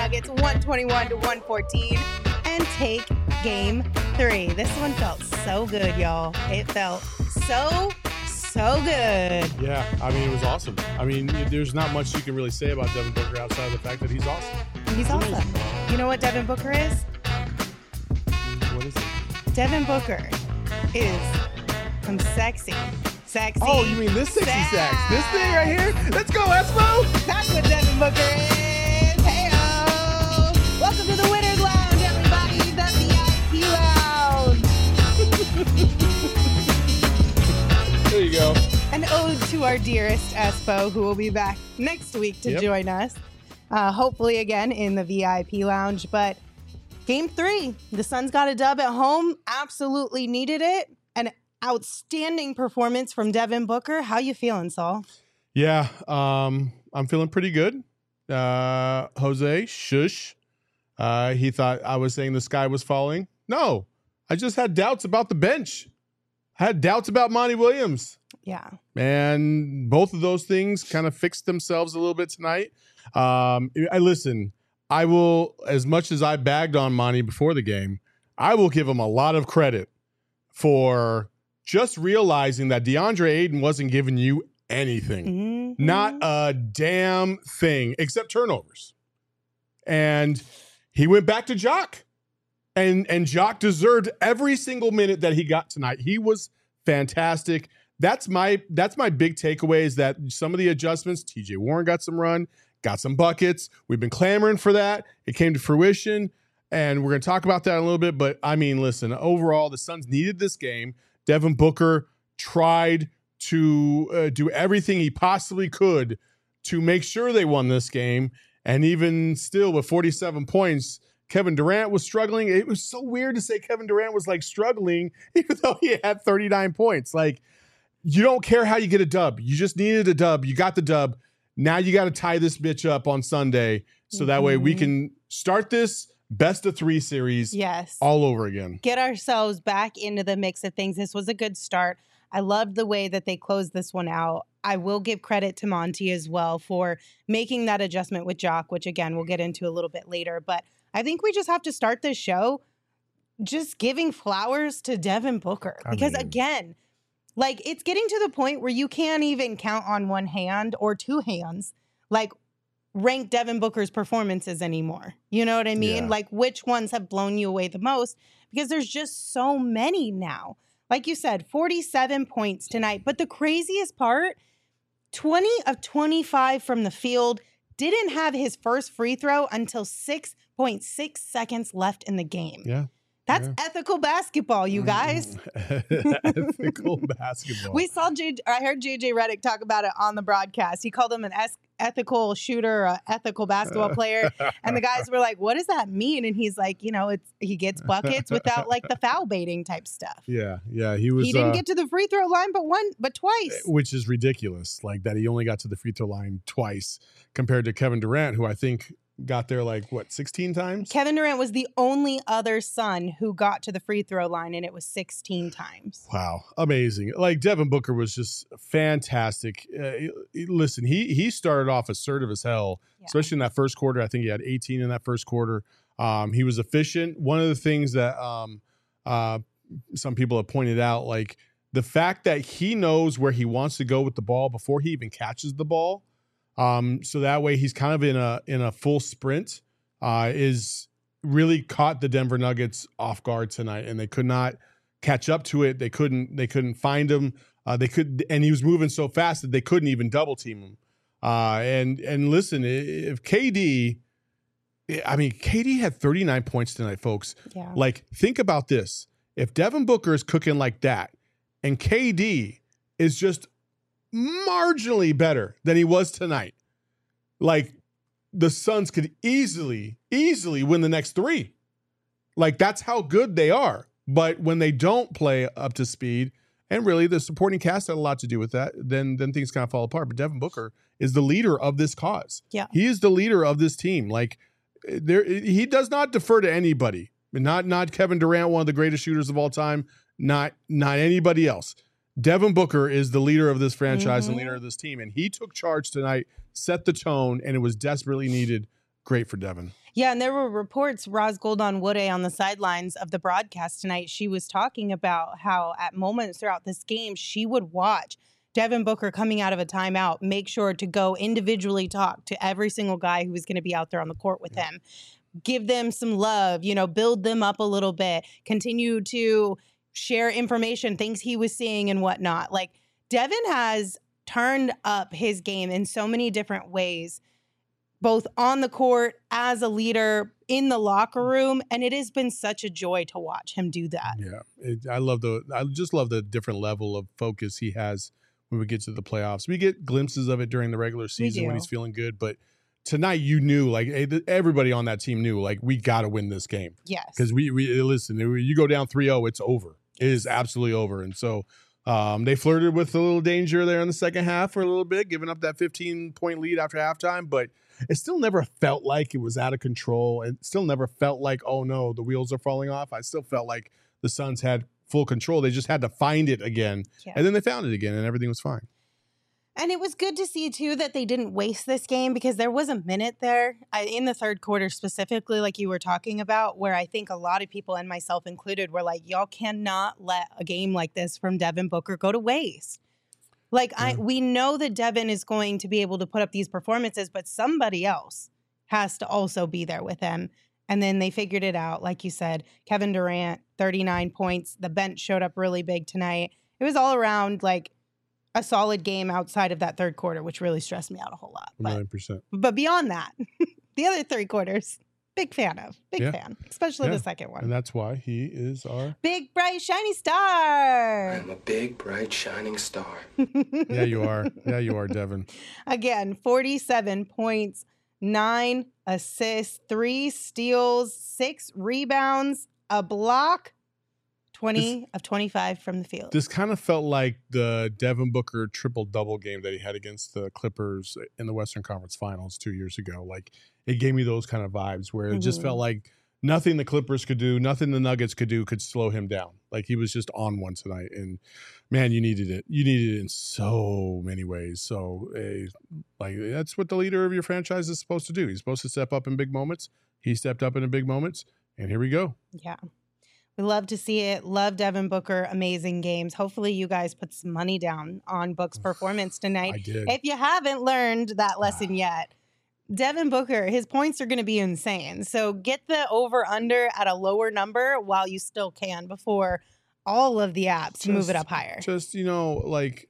Nuggets 121-114 and take game 3. This one felt so good, y'all. It felt so good. Yeah, I mean, it was awesome. I mean, there's not much you can really say about Devin Booker outside of the fact that he's awesome. He's awesome. You know what Devin Booker is? What is it? Devin Booker is some sexy. Oh, you mean this sexy sax? This thing right here? Let's go, Espo! That's what Devin Booker is. Hey-o! Welcome to the Winners Lounge, everybody. The VIP Lounge. There you go. An ode to our dearest Espo, who will be back next week to join us. Hopefully again in the VIP Lounge. But game 3, the Suns got a dub at home. Absolutely needed it. An outstanding performance from Devin Booker. How you feeling, Saul? Yeah, I'm feeling pretty good. Jose, shush. He thought I was saying the sky was falling. No, I just had doubts about the bench. I had doubts about Monty Williams. Yeah. And both of those things kind of fixed themselves a little bit tonight. I will, as much as I bagged on Monty before the game, I will give him a lot of credit for just realizing that DeAndre Ayton wasn't giving you anything. Mm-hmm. Not a damn thing except turnovers. And he went back to Jock. And Jock deserved every single minute that he got tonight. He was fantastic. That's my big takeaway is that some of the adjustments, TJ Warren got some run, got some buckets. We've been clamoring for that. It came to fruition. And we're going to talk about that in a little bit. But, I mean, listen, overall, the Suns needed this game. Devin Booker tried to do everything he possibly could to make sure they won this game. And even still, with 47 points, Kevin Durant was struggling. It was so weird to say Kevin Durant was, like, struggling, even though he had 39 points. Like, you don't care how you get a dub. You just needed a dub. You got the dub. Now you got to tie this bitch up on Sunday so that way we can start this best of 3 series all over again. Get ourselves back into the mix of things. This was a good start. I loved the way that they closed this one out. I will give credit to Monty as well for making that adjustment with Jock, which again, we'll get into a little bit later. But I think we just have to start this show just giving flowers to Devin Booker. Because again, like it's getting to the point where you can't even count on one hand or two hands, like rank Devin Booker's performances anymore. You know what I mean? Yeah. Like which ones have blown you away the most? Because there's just so many now. Like you said, 47 points tonight. But the craziest part, 20 of 25 from the field, didn't have his first free throw until 6.6 seconds left in the game. Yeah. That's ethical basketball, you guys. Ethical basketball. We saw I heard JJ Redick talk about it on the broadcast. He called him an ethical shooter, an ethical basketball player. And the guys were like, what does that mean? And he's like, you know, he gets buckets without like the foul baiting type stuff. Yeah. He didn't get to the free throw line but twice. Which is ridiculous. Like that he only got to the free throw line twice compared to Kevin Durant, who I think got there 16 times? Kevin Durant was the only other Sun who got to the free throw line, and it was 16 times. Wow. Amazing. Like, Devin Booker was just fantastic. Listen, he started off assertive as hell, especially in that first quarter. I think he had 18 in that first quarter. He was efficient. One of the things that some people have pointed out, like, the fact that he knows where he wants to go with the ball before he even catches the ball, so that way he's kind of in a full sprint, is really caught the Denver Nuggets off guard tonight, and they could not catch up to it. They couldn't find him. And he was moving so fast that they couldn't even double team him. And listen, if KD had 39 points tonight, folks. Yeah. Like, think about this. If Devin Booker is cooking like that, and KD is just marginally better than he was tonight, like, the Suns could easily win the next 3. Like, that's how good they are. But when they don't play up to speed, and really the supporting cast had a lot to do with that, then things kind of fall apart. But Devin Booker is the leader of this cause. Yeah. He is the leader of this team. Like, he does not defer to anybody. Not Kevin Durant, one of the greatest shooters of all time. Not anybody else. Devin Booker is the leader of this franchise and leader of this team. And he took charge tonight, set the tone, and it was desperately needed great for Devin. Yeah, and there were reports, Roz Goldon-Woode on the sidelines of the broadcast tonight, she was talking about how at moments throughout this game, she would watch Devin Booker coming out of a timeout, make sure to go individually talk to every single guy who was going to be out there on the court with him. Give them some love, build them up a little bit, continue to share information, things he was seeing and whatnot. Like, Devin has turned up his game in so many different ways, both on the court, as a leader, in the locker room, and it has been such a joy to watch him do that. Yeah, I just love the different level of focus he has when we get to the playoffs. We get glimpses of it during the regular season when he's feeling good, but tonight you knew, like, everybody on that team knew, like, we got to win this game. Yes. Because we listen, you go down 3-0, it's over. It is absolutely over. And so they flirted with a little danger there in the second half for a little bit, giving up that 15-point lead after halftime, but it still never felt like it was out of control. It still never felt like, oh no, the wheels are falling off. I still felt like the Suns had full control. They just had to find it again. Yeah. And then they found it again and everything was fine. And it was good to see, too, that they didn't waste this game, because there was a minute there in the third quarter specifically, like you were talking about, where I think a lot of people, and myself included, were like, y'all cannot let a game like this from Devin Booker go to waste. Like, we know that Devin is going to be able to put up these performances, but somebody else has to also be there with him. And then they figured it out. Like you said, Kevin Durant, 39 points. The bench showed up really big tonight. It was all around, like, a solid game outside of that third quarter, which really stressed me out a whole lot. 9%. But beyond that, the other three quarters, big fan of. Big fan, especially the second one. And that's why he is our big, bright, shiny star. I'm a big, bright, shining star. Yeah, you are. Yeah, you are, Devin. Again, 47 points, 9 assists, 3 steals, 6 rebounds, a block. 20 of 25 from the field. This kind of felt like the Devin Booker triple-double game that he had against the Clippers in the Western Conference Finals 2 years ago. Like, it gave me those kind of vibes where it just felt like nothing the Clippers could do, nothing the Nuggets could do could slow him down. Like, he was just on one tonight. And, man, you needed it. You needed it in so many ways. So, like, that's what the leader of your franchise is supposed to do. He's supposed to step up in big moments. He stepped up in the big moments. And here we go. Yeah. We love to see it. Love Devin Booker. Amazing games. Hopefully you guys put some money down on Book's performance tonight. I did. If you haven't learned that lesson yet, Devin Booker, his points are going to be insane. So get the over-under at a lower number while you still can before all of the apps move it up higher. Just, like,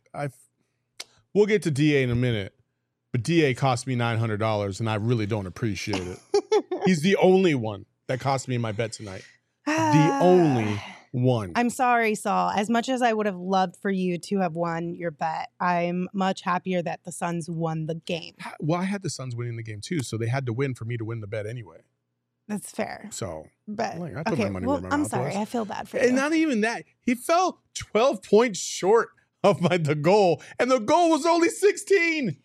we'll get to DA in a minute, but DA cost me $900, and I really don't appreciate it. He's the only one that cost me my bet tonight. The only one. I'm sorry, Saul. As much as I would have loved for you to have won your bet, I'm much happier that the Suns won the game. Well, I had the Suns winning the game too, so they had to win for me to win the bet anyway. That's fair. So, but I put my money where my I'm mouth sorry. was. I feel bad for you. And not even that. He fell 12 points short of the goal, and the goal was only 16.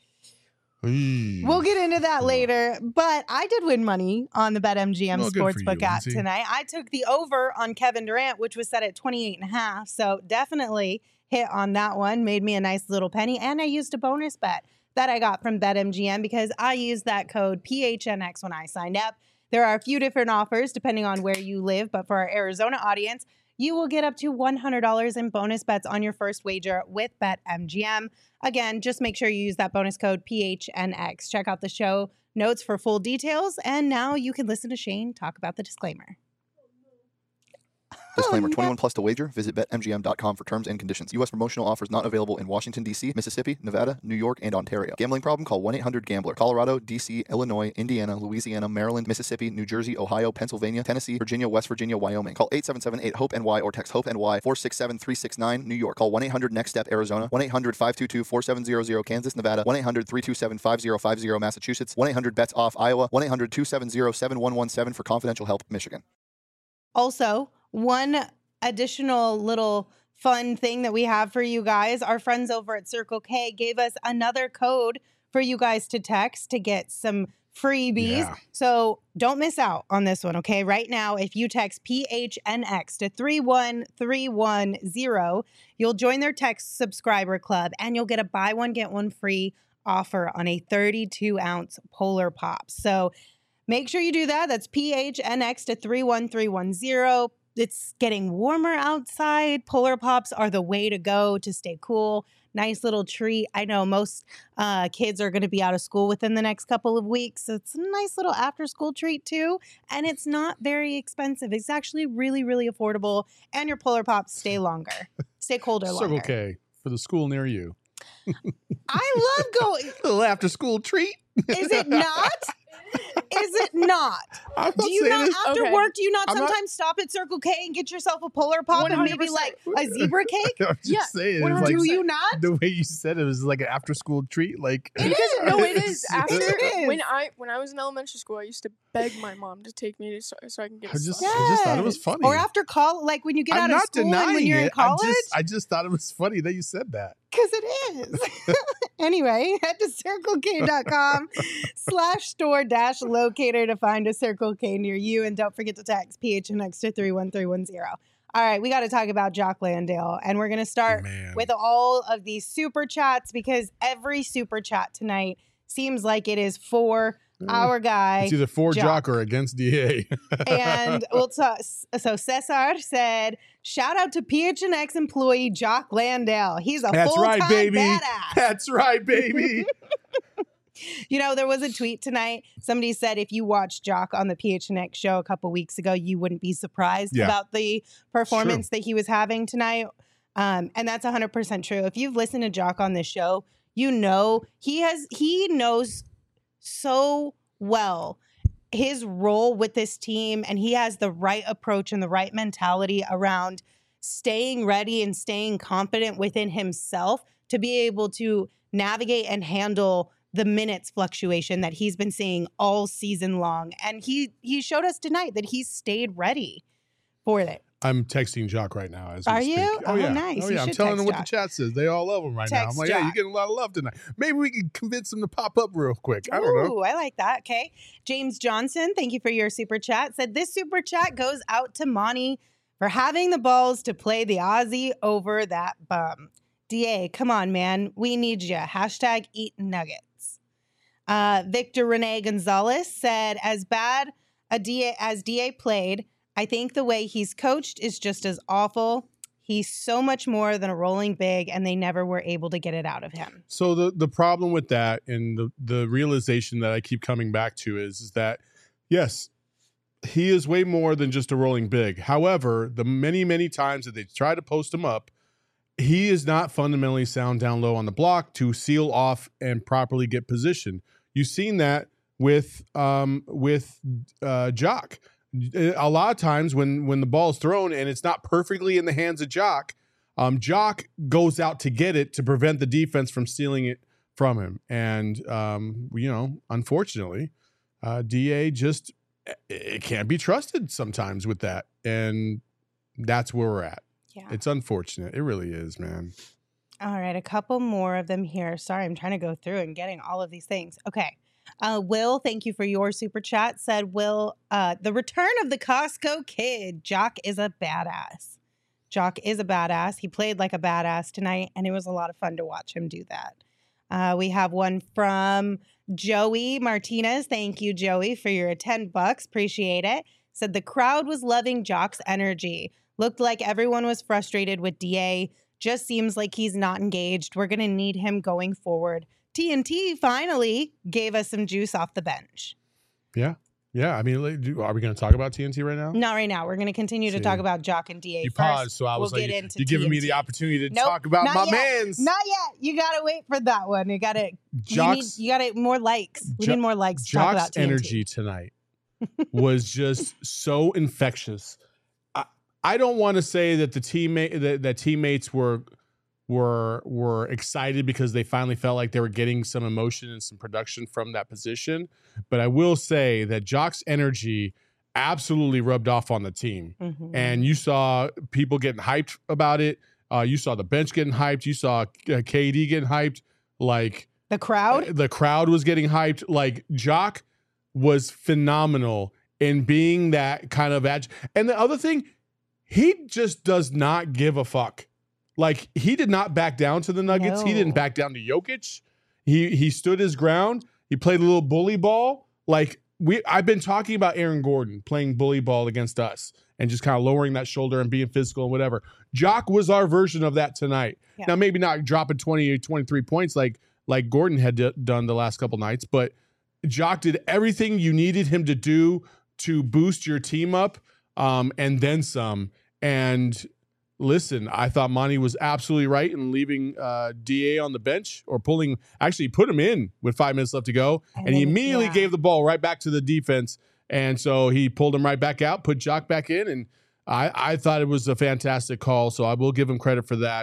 We'll get into that later, but I did win money on the BetMGM Sportsbook app tonight. I took the over on Kevin Durant, which was set at 28.5, so definitely hit on that one. Made me a nice little penny, and I used a bonus bet that I got from BetMGM because I used that code PHNX when I signed up. There are a few different offers depending on where you live, but for our Arizona audience, you will get up to $100 in bonus bets on your first wager with BetMGM. Again, just make sure you use that bonus code PHNX. Check out the show notes for full details. And now you can listen to Shane talk about the disclaimer. Disclaimer, 21 plus to wager. Visit BetMGM.com for terms and conditions. U.S. promotional offers not available in Washington, D.C., Mississippi, Nevada, New York, and Ontario. Gambling problem? Call 1-800-GAMBLER. Colorado, D.C., Illinois, Indiana, Louisiana, Maryland, Mississippi, New Jersey, Ohio, Pennsylvania, Tennessee, Virginia, West Virginia, Wyoming. Call 877-8-HOPE-NY or text HOPE-NY 467-369, New York. Call 1-800-NEXT-STEP, Arizona. 1-800-522-4700, Kansas, Nevada. 1-800-327-5050, Massachusetts. 1-800-BETS-OFF, Iowa. 1-800-270-7117 for confidential help, Michigan. Also, one additional little fun thing that we have for you guys, our friends over at Circle K gave us another code for you guys to text to get some freebies. Yeah. So don't miss out on this one, okay? Right now, if you text PHNX to 31310, you'll join their text subscriber club and you'll get a buy one, get one free offer on a 32-ounce Polar Pop. So Make sure you do that. That's PHNX to 31310. It's getting warmer outside. Polar Pops are the way to go to stay cool. Nice little treat. I know most kids are going to be out of school within the next couple of weeks. So it's a nice little after school treat too. And it's not very expensive. It's actually really, really affordable. And your Polar Pops stay longer. Stay colder longer. Circle K for the school near you. I love going. A little after school treat. Is it not? Is it not? I'm Do you not, after Okay. work, do you not I'm not- sometimes stop at Circle K and get yourself a Polar Pop and maybe 100%. like a zebra cake? I'm just Yeah, saying. what It's like, Do you not? the way you said it was like an after school treat. Like It Because is. no, it is. After It is. when I was in elementary school, I used to beg my mom to take me to so I can get I a just, soccer. I just thought it was Yes. funny. Or after college, like when you get I'm out of not school and denying when you're it. in college. I just thought it was funny that you said that. Because it is. Anyway, head to circlek.com/store-locator to find a Circle K near you. And don't forget to text PHNX to 31310. All right, we got to talk about Jock Landale. And we're going to start Man. with all of these super chats because every super chat tonight seems like it is for our guy. It's either for Jock. Jock or against DA. And so Cesar said, shout out to PHNX employee Jock Landale. He's a That's full-time right, baby. badass. That's right, baby. You know, there was a tweet tonight. Somebody said if you watched Jock on the PHNX show a couple weeks ago, you wouldn't be surprised Yeah. about the performance that he was having tonight. And that's 100% true. If you've listened to Jock on this show, you know he knows so well his role with this team, and he has the right approach and the right mentality around staying ready and staying confident within himself to be able to navigate and handle the minutes fluctuation that he's been seeing all season long. And he showed us tonight that he's stayed ready for it. I'm texting Jock right now. As we Are speak. you? Oh, Oh, yeah. nice. Oh, You yeah. I'm should telling them text what the chat says. They all love him right now. I'm Text like, yeah, you're Jock. getting a lot of love tonight. Maybe we can convince him to pop up real quick. I don't know. Ooh, I like that. Okay. James Johnson, thank you for your super chat. Said this super chat goes out to Monty for having the balls to play the Aussie over that bum. DA, come on, man. We need you. Hashtag eat nuggets. Victor Rene Gonzalez said, as bad as DA played, I think the way he's coached is just as awful. He's so much more than a rolling big, and they never were able to get it out of him. So the problem with that and the realization that I keep coming back to is that, yes, he is way more than just a rolling big. However, the many, many times that they try to post him up, he is not fundamentally sound down low on the block to seal off and properly get position. You've seen that with Jock. A lot of times when the ball is thrown and it's not perfectly in the hands of Jock, Jock goes out to get it to prevent the defense from stealing it from him. And, unfortunately, DA just it can't be trusted sometimes with that. And that's where we're at. Yeah. It's unfortunate. It really is, man. All right, a couple more of them here. Sorry, I'm trying to go through and getting all of these things. Okay. Will, thank you for your super chat. Said, Will, the return of the Costco kid. Jock is a badass. Jock is a badass. He played like a badass tonight, and it was a lot of fun to watch him do that. We have one from Joey Martinez. Thank you, Joey, for your $10. Appreciate it. Said the crowd was loving Jock's energy. Looked like everyone was frustrated with DA. Just seems like he's not engaged. We're going to need him going forward. TNT finally gave us some juice off the bench. Yeah. Yeah. I mean, are we going to talk about TNT right now? Not right now. We're going to continue to See. talk about Jock and DA You first. paused, so I was We'll like, get into you're giving me TNT. the opportunity to Nope, talk about not my yet. mans. Not yet. You got to wait for that one. You got to. Jock's, You got more likes. We Jo- need more likes to talk about Jock's TNT. energy tonight was just so infectious. I don't want to say that the teammates were excited because they finally felt like they were getting some emotion and some production from that position. But I will say that Jock's energy absolutely rubbed off on the team. Mhm. And you saw people getting hyped about it. You saw the bench getting hyped. You saw KD getting hyped. Like The crowd? the crowd was getting hyped. Like Jock was phenomenal in being that kind of and the other thing, he just does not give a fuck. Like he did not back down to the Nuggets. He didn't No. back down to Jokic. He stood his ground. He played a little bully ball. Like I've been talking about Aaron Gordon playing bully ball against us and just kind of lowering that shoulder and being physical and whatever. Jock was our version of that tonight. Yeah. Now, maybe not dropping 20 or 23 points like Gordon had done the last couple nights, but Jock did everything you needed him to do to boost your team up, and then some. And listen, I thought Monty was absolutely right in leaving DA on the bench, or put him in with 5 minutes left to go. And he immediately gave the ball right back to the defense. And so he pulled him right back out, put Jock back in. And I thought it was a fantastic call. So I will give him credit for that.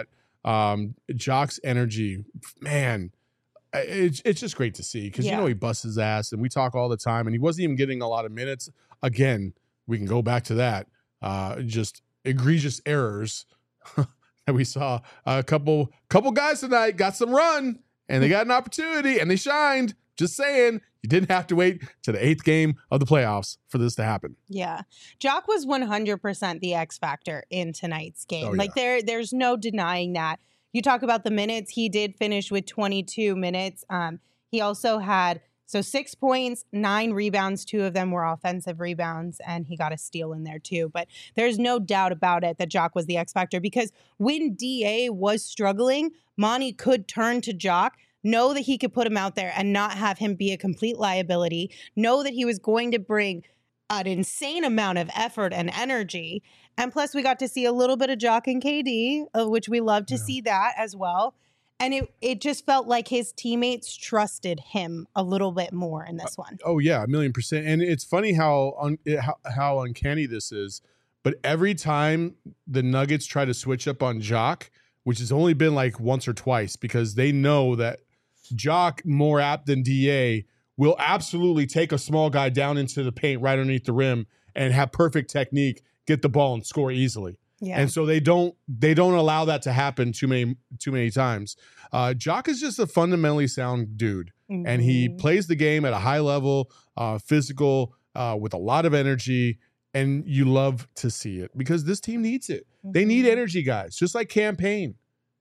Jock's energy, man, it's just great to see, because, he busts his ass and we talk all the time, and he wasn't even getting a lot of minutes. Again, we can go back to that. Just egregious errors that we saw. A couple guys tonight got some run, and they got an opportunity, and they shined. Just saying, you didn't have to wait to the 8th game of the playoffs for this to happen. Yeah. Jock was 100% the X factor in tonight's game. Oh, like there's no denying that. You talk about the minutes, he did finish with 22 minutes. He also had 6 points, 9 rebounds, 2 of them were offensive rebounds, and he got a steal in there too. But there's no doubt about it that Jock was the X factor, because when DA was struggling, Monty could turn to Jock, know that he could put him out there and not have him be a complete liability, know that he was going to bring an insane amount of effort and energy. And plus, we got to see a little bit of Jock and KD, which we love to see that as well. And it just felt like his teammates trusted him a little bit more in this one. Oh, yeah, 1,000,000%. And it's funny how uncanny this is. But every time the Nuggets try to switch up on Jock, which has only been like once or twice, because they know that Jock, more apt than DA, will absolutely take a small guy down into the paint right underneath the rim and have perfect technique, get the ball and score easily. Yeah. And so they don't allow that to happen too many times. Jock is just a fundamentally sound dude, and he plays the game at a high level, physical, with a lot of energy, and you love to see it, because this team needs it. They need energy guys, just like Campaign.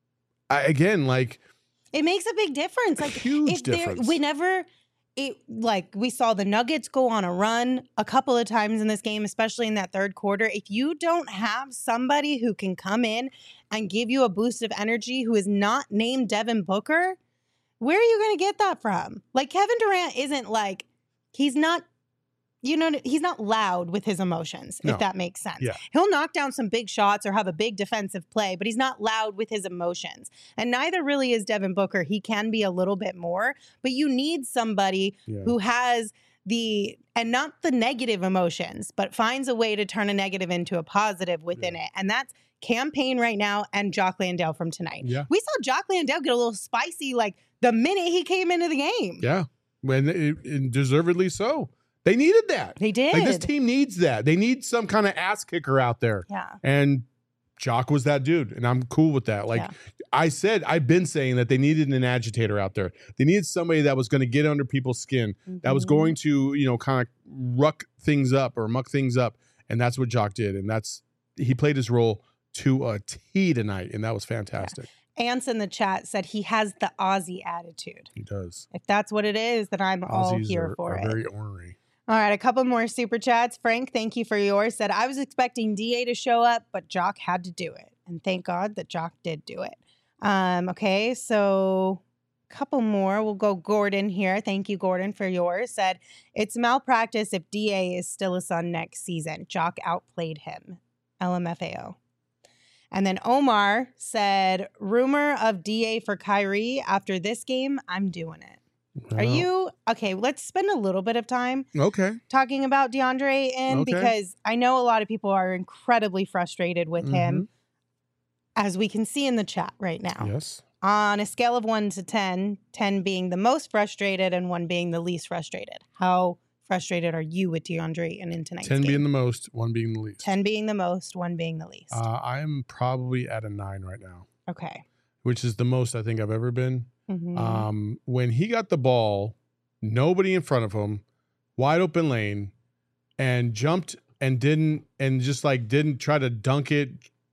It makes a big difference. Like, huge difference. Whenever we saw the Nuggets go on a run a couple of times in this game, especially in that third quarter. If you don't have somebody who can come in and give you a boost of energy, who is not named Devin Booker, where are you going to get that from? Like, Kevin Durant isn't like, he's not loud with his emotions, if that makes sense. Yeah. He'll knock down some big shots or have a big defensive play, but he's not loud with his emotions. And neither really is Devin Booker. He can be a little bit more, but you need somebody who has and not the negative emotions, but finds a way to turn a negative into a positive within it. And that's Campaign right now, and Jock Landale from tonight. Yeah. We saw Jock Landale get a little spicy like the minute he came into the game. Yeah, and deservedly so. They needed that. They did. Like, this team needs that. They need some kind of ass kicker out there. Yeah. And Jock was that dude, and I'm cool with that. Like I've been saying that they needed an agitator out there. They needed somebody that was going to get under people's skin, that was going to, kind of muck things up. And that's what Jock did. And he played his role to a T tonight, and that was fantastic. Yeah. Ants in the chat said he has the Aussie attitude. He does. If that's what it is, then I'm all Aussies here for are it. very ornery. All right, a couple more super chats. Frank, thank you for yours. Said, I was expecting DA to show up, but Jock had to do it. And thank God that Jock did do it. Okay, so a couple more. We'll go Gordon here. Thank you, Gordon, for yours. Said, it's malpractice if DA is still a Sun next season. Jock outplayed him. LMFAO. And then Omar said, rumor of DA for Kyrie after this game, I'm doing it. Are you okay? Let's spend a little bit of time talking about DeAndre Ayton, because I know a lot of people are incredibly frustrated with him, as we can see in the chat right now. Yes. On a scale of 1 to 10, 10 being the most frustrated and 1 being the least frustrated. How frustrated are you with DeAndre Ayton in tonight's 10 game? being the most, 1 being the least. 10 being the most, 1 being the least. I am probably at a 9 right now. Okay. Which is the most I think I've ever been. Mm-hmm. When he got the ball, nobody in front of him, wide open lane, and jumped and didn't try to dunk it,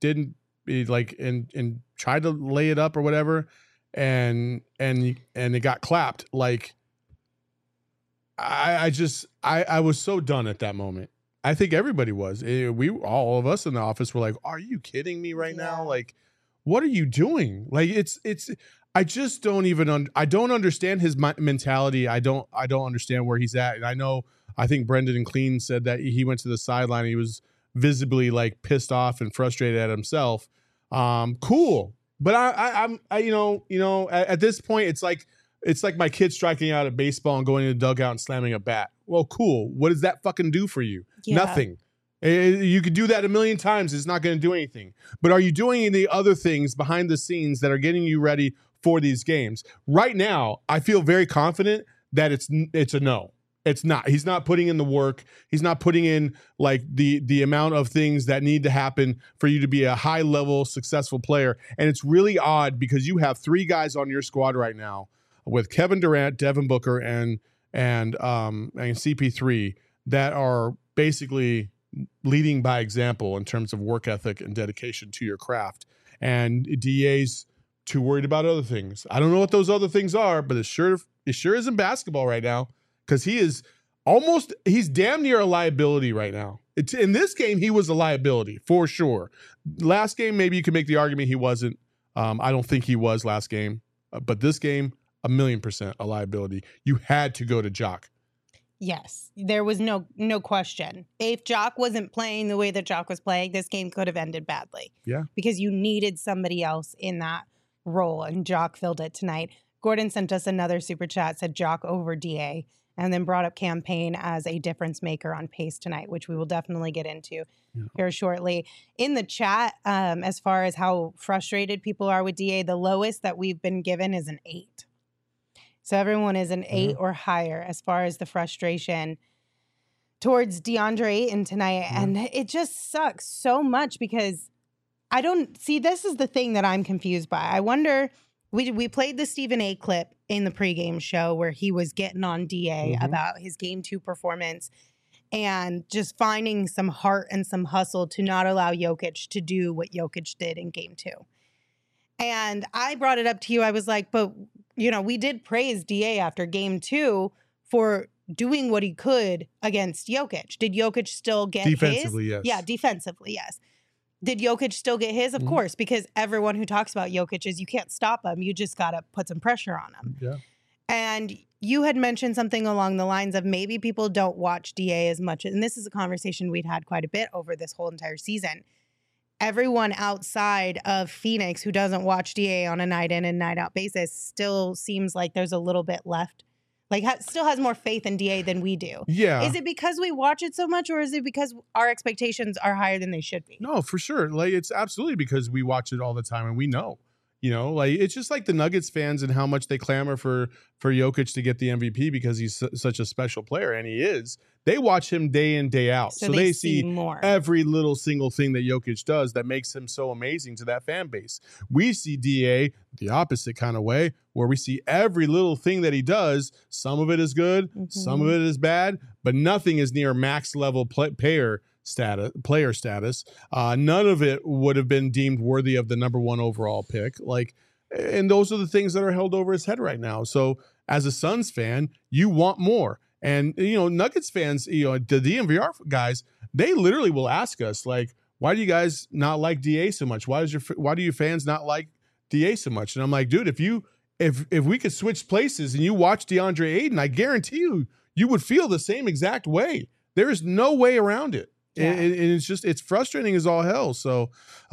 and tried to lay it up or whatever, and it got clapped. Like, I was so done at that moment. I think everybody was. All of us in the office were like, "Are you kidding me right now? Like, what are you doing?" Like, it's. I just don't even. I don't understand his mentality. I don't understand where he's at. And I think Brendan Clean said that he went to the sideline. He was visibly like pissed off and frustrated at himself. Cool, but I'm at this point, it's like my kid striking out at baseball and going to the dugout and slamming a bat. Well, cool. What does that fucking do for you? Yeah. Nothing. You could do that a million times. It's not going to do anything. But are you doing the other things behind the scenes that are getting you ready for these games? Right now, I feel very confident that it's a no. It's not. He's not putting in the work. He's not putting in like the amount of things that need to happen for you to be a high level successful player. And it's really odd because you have 3 guys on your squad right now with Kevin Durant, Devin Booker, and CP3 that are basically leading by example in terms of work ethic and dedication to your craft. And DA's too worried about other things. I don't know what those other things are, but it sure isn't basketball right now, because he's damn near a liability right now. In this game, he was a liability for sure. Last game, maybe you could make the argument he wasn't. I don't think he was last game, but this game, 1,000,000% a liability. You had to go to Jock. Yes, there was no question. If Jock wasn't playing the way that Jock was playing, this game could have ended badly. Yeah. Because you needed somebody else in that role, and Jock filled it tonight. Gordon sent us another super chat, said Jock over DA, and then brought up Campaign as a difference maker on pace tonight, which we will definitely get into here shortly. In the chat, as far as how frustrated people are with DA, the lowest that we've been given is an 8. So everyone is an 8 or higher as far as the frustration towards DeAndre Ayton tonight. And it just sucks so much because I don't see, this is the thing that I'm confused by. I wonder, we played the Stephen A clip in the pregame show where he was getting on DA about his game 2 performance and just finding some heart and some hustle to not allow Jokic to do what Jokic did in game 2. And I brought it up to you. I was like, but we did praise DA after game 2 for doing what he could against Jokic. Did Jokic still get defensively, his? Yes. Yeah, defensively, yes. Did Jokic still get his? Of course, because everyone who talks about Jokic is you can't stop him. You just got to put some pressure on him. Yeah. And you had mentioned something along the lines of maybe people don't watch DA as much. And this is a conversation we'd had quite a bit over this whole entire season. Everyone outside of Phoenix who doesn't watch DA on a night in and night out basis still seems like there's a little bit left. Like still has more faith in DA than we do. Yeah. Is it because we watch it so much, or is it because our expectations are higher than they should be? No, for sure. Like, it's absolutely because we watch it all the time and we know. Like it's just like the Nuggets fans and how much they clamor for Jokic to get the MVP because he's such a special player, and he is. They watch him day in, day out. So they see more. Every little single thing that Jokic does that makes him so amazing to that fan base. We see DA the opposite kind of way, where we see every little thing that he does. Some of it is good, some of it is bad, but nothing is near max level player status. None of it would have been deemed worthy of the number 1 overall pick. And those are the things that are held over his head right now. So as a Suns fan, you want more. And, Nuggets fans, the DNVR guys, they literally will ask us, like, why do you guys not like DA so much? Why do you fans not like DA so much? And I'm like, dude, if we could switch places and you watch DeAndre Ayton, I guarantee you would feel the same exact way. There is no way around it. Yeah. And it's frustrating as all hell. So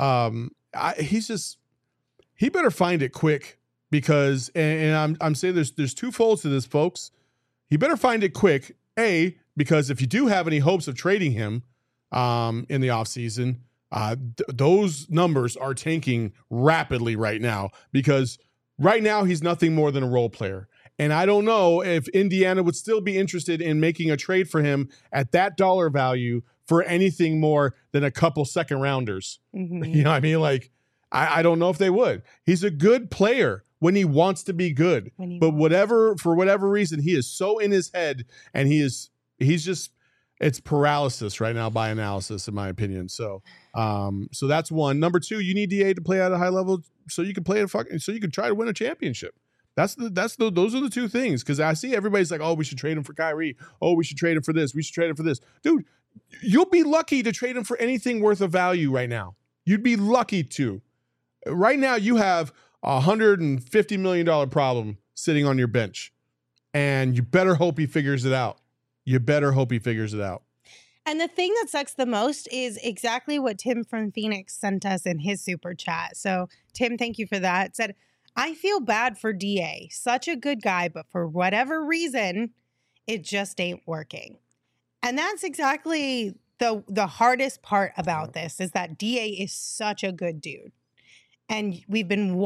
he better find it quick because, and I'm saying there's 2 folds to this, folks. He better find it quick. A, because if you do have any hopes of trading him in the offseason, those numbers are tanking rapidly right now because right now he's nothing more than a role player. And I don't know if Indiana would still be interested in making a trade for him at that dollar value for anything more than a couple second rounders. You know what I mean? Like, I don't know if they would. He's a good player when he wants to be good. But for whatever reason, he is so in his head and he's just, it's paralysis right now by analysis, in my opinion. So that's one. Number 2, you need DA to play at a high level so you can so you can try to win a championship. Those are the two things. Because I see everybody's like, oh, we should trade him for Kyrie. Oh, we should trade him for this. We should trade him for this. Dude, you'll be lucky to trade him for anything worth of value right now. You'd be lucky to. Right now, you have a $150 million problem sitting on your bench. And you better hope he figures it out. And the thing that sucks the most is exactly what Tim from Phoenix sent us in his super chat. So, Tim, thank you for that. It said, I feel bad for DA. Such a good guy, but for whatever reason, it just ain't working. And that's exactly the hardest part about this is that DA is such a good dude. And we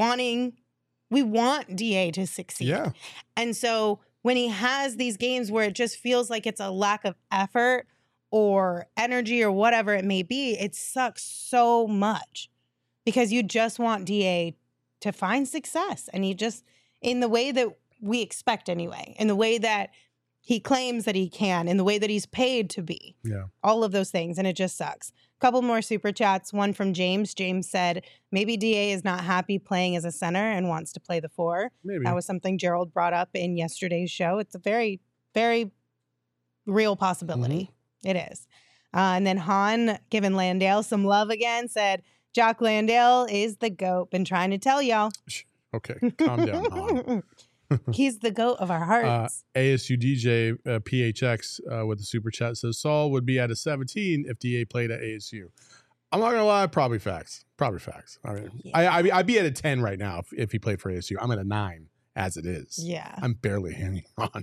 want DA to succeed. Yeah. And so when he has these games where it just feels like it's a lack of effort or energy or whatever it may be, it sucks so much because you just want DA to find success. And he just, in the way that we expect anyway, in the way that he claims that he can, in the way that he's paid to be. Yeah. All of those things. And it just sucks. Couple more super chats. One from James. James said, maybe DA is not happy playing as a center and wants to play the 4. Maybe. That was something Gerald brought up in yesterday's show. It's a very, very real possibility. It is. And then Han, giving Landale some love again, said, Jock Landale is the GOAT. Been trying to tell y'all. Okay, calm down, Han. He's the GOAT of our hearts. ASU DJ PHX with the super chat says Saul would be at a 17 if DA played at ASU. I'm not gonna lie, probably facts. I mean, yeah. I'd be at a 10 right now if he played for ASU. I'm at a 9 as it is. Yeah, I'm barely hanging on.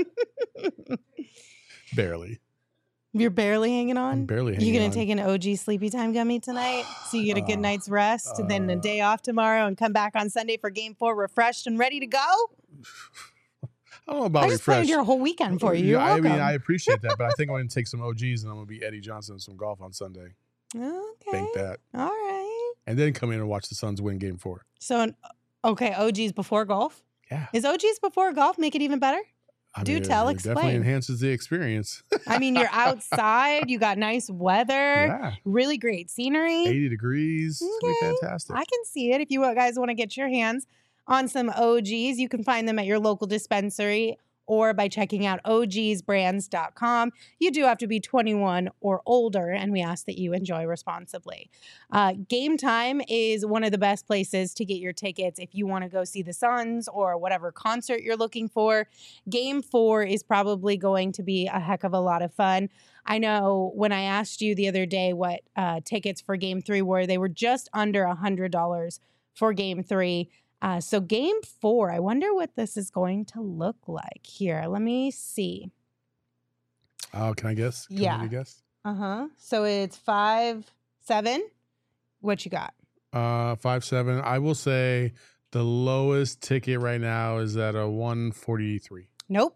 Barely. You're barely hanging on? I'm barely hanging on. You going to take an OG sleepy time gummy tonight so you get a good night's rest and then a day off tomorrow and come back on Sunday for game 4 refreshed and ready to go? I don't know about I just planned your whole weekend for you. You're welcome. I mean, I appreciate that, but I think I'm going to take some OGs and I'm going to be Eddie Johnson and some golf on Sunday. Okay. Bank that. All right. And then come in and watch the Suns win game 4. So, okay, OGs before golf? Yeah. Is OGs before golf make it even better? Do tell, explain. Definitely enhances the experience. I mean, you're outside. You got nice weather. Really great scenery. 80 degrees. It's going to be fantastic. I can see it. If you guys want to get your hands on some OGs, you can find them at your local dispensary or by checking out ogsbrands.com. You do have to be 21 or older, and we ask that you enjoy responsibly. Game Time is one of the best places to get your tickets if you want to go see the Suns or whatever concert you're looking for. Game 4 is probably going to be a heck of a lot of fun. I know when I asked you the other day what tickets for Game 3 were, they were just under $100 for Game 3. So game 4, I wonder what this is going to look like here. Let me see. Oh, can I guess? Can yeah. you guess? So it's 5-7. What you got? 5-7. I will say the lowest ticket right now is at a 143. Nope.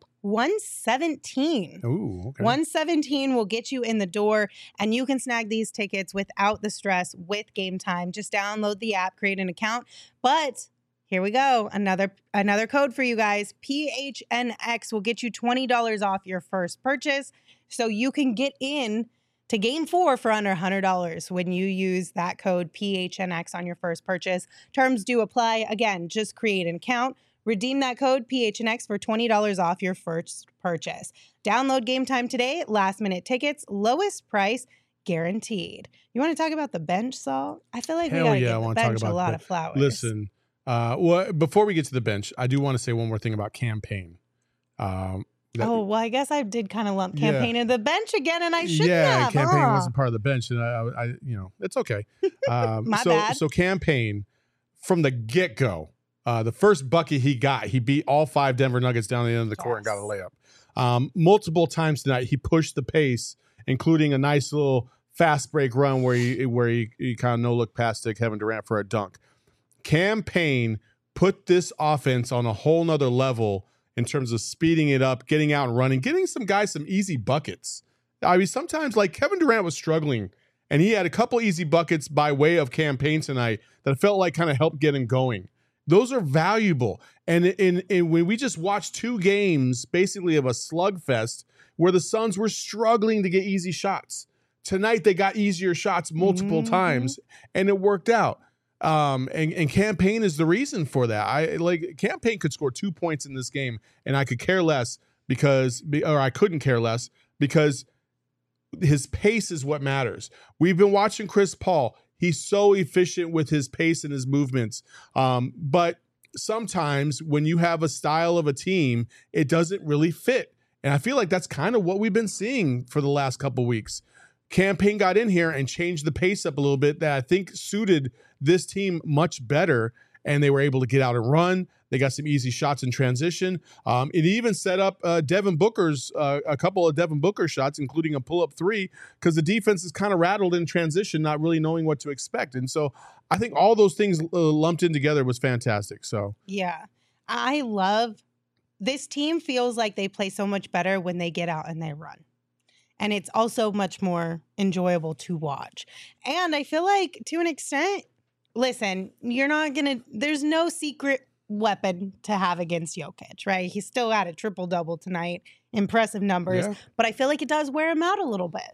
117. Ooh, okay. 117 will get you in the door, and you can snag these tickets without the stress with Game Time. Just download the app, create an account. But here we go. Another code for you guys. PHNX will get you $20 off your first purchase. So you can get in to Game 4 for under $100 when you use that code PHNX on your first purchase. Terms do apply. Again, just create an account. Redeem that code PHNX for $20 off your first purchase. Download Game Time today. Last minute tickets. Lowest price guaranteed. You want to talk about the bench, Saul? I feel like we got to give the bench a lot of flowers. Listen. Well, before we get to the bench, I do want to say one more thing about campaign. Well, I guess I did kind of lump campaign in the bench again, and I shouldn't have. Yeah, campaign wasn't part of the bench, and I it's okay. My bad. So campaign from the get-go, the first bucket he got, he beat all 5 Denver Nuggets down the end of the court and got a layup. Multiple times tonight, he pushed the pace, including a nice little fast break run where he kind of no-look past to Kevin Durant for a dunk. Campaign put this offense on a whole nother level in terms of speeding it up, getting out and running, getting some guys some easy buckets. I mean, sometimes like Kevin Durant was struggling and he had a couple easy buckets by way of campaign tonight that felt like kind of helped get him going. Those are valuable. And when we just watched 2 games basically of a slugfest where the Suns were struggling to get easy shots. Tonight they got easier shots multiple times and it worked out. And Campaign is the reason for that. Campaign could score 2 points in this game, and I could care less or I couldn't care less because his pace is what matters. We've been watching Chris Paul. He's so efficient with his pace and his movements. But sometimes when you have a style of a team, it doesn't really fit. And I feel like that's kind of what we've been seeing for the last couple weeks. Campaign got in here and changed the pace up a little bit that I think suited this team much better, and they were able to get out and run. They got some easy shots in transition. It even set up Devin Booker's a couple of Devin Booker shots, including a pull-up three, because the defense is kind of rattled in transition, not really knowing what to expect. And so I think all those things lumped in together was fantastic. So yeah, I love this team. Feels like they play so much better when they get out and they run. And it's also much more enjoyable to watch. And I feel like to an extent, listen, there's no secret weapon to have against Jokic, right? He still had a triple-double tonight. Impressive numbers. Yeah. But I feel like it does wear him out a little bit.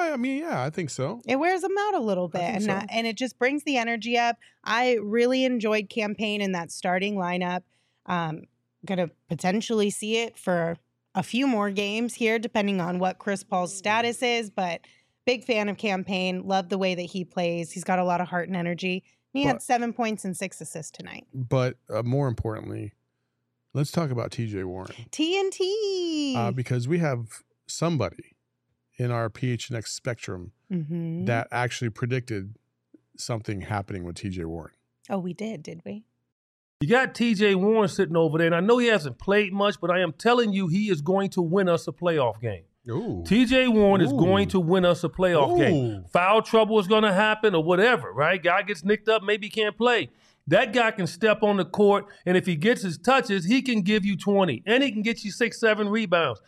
I think so. It wears him out a little bit. And it just brings the energy up. I really enjoyed Campaign in that starting lineup. Going to potentially see it for a few more games here, depending on what Chris Paul's status is. But big fan of Campaign. Love the way that he plays. He's got a lot of heart and energy. He had 7 points and 6 assists tonight. But more importantly, let's talk about TJ Warren. TNT. Because we have somebody in our PHNX spectrum that actually predicted something happening with TJ Warren. Oh, we did we? You got TJ Warren sitting over there, and I know he hasn't played much, but I am telling you he is going to win us a playoff game. Ooh. TJ Warren is going to win us a playoff game. Foul trouble is going to happen or whatever, right? Guy gets nicked up, maybe he can't play. That guy can step on the court, and if he gets his touches, he can give you 20, and he can get you 6-7 rebounds.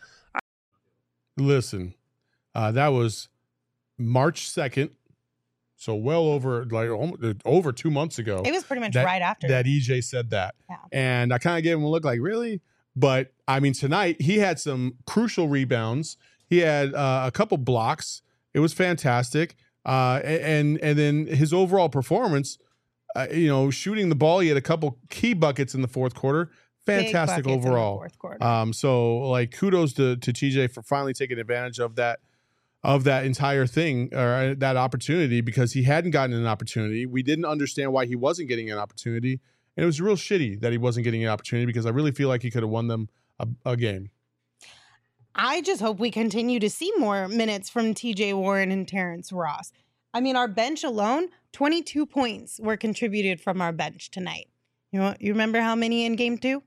Listen, that was March 2nd. So well over 2 months ago. It was pretty much right after that EJ said that. Yeah. And I kind of gave him a look like, really? But, I mean, tonight he had some crucial rebounds. He had a couple blocks. It was fantastic. And then his overall performance, shooting the ball, he had a couple key buckets in the fourth quarter. Fantastic overall. Fourth quarter. So, kudos to TJ for finally taking advantage of that entire thing or that opportunity, because he hadn't gotten an opportunity. We didn't understand why he wasn't getting an opportunity. And it was real shitty that he wasn't getting an opportunity, because I really feel like he could have won them a game. I just hope we continue to see more minutes from TJ Warren and Terrence Ross. I mean, our bench alone, 22 points were contributed from our bench tonight. You remember how many in game 2?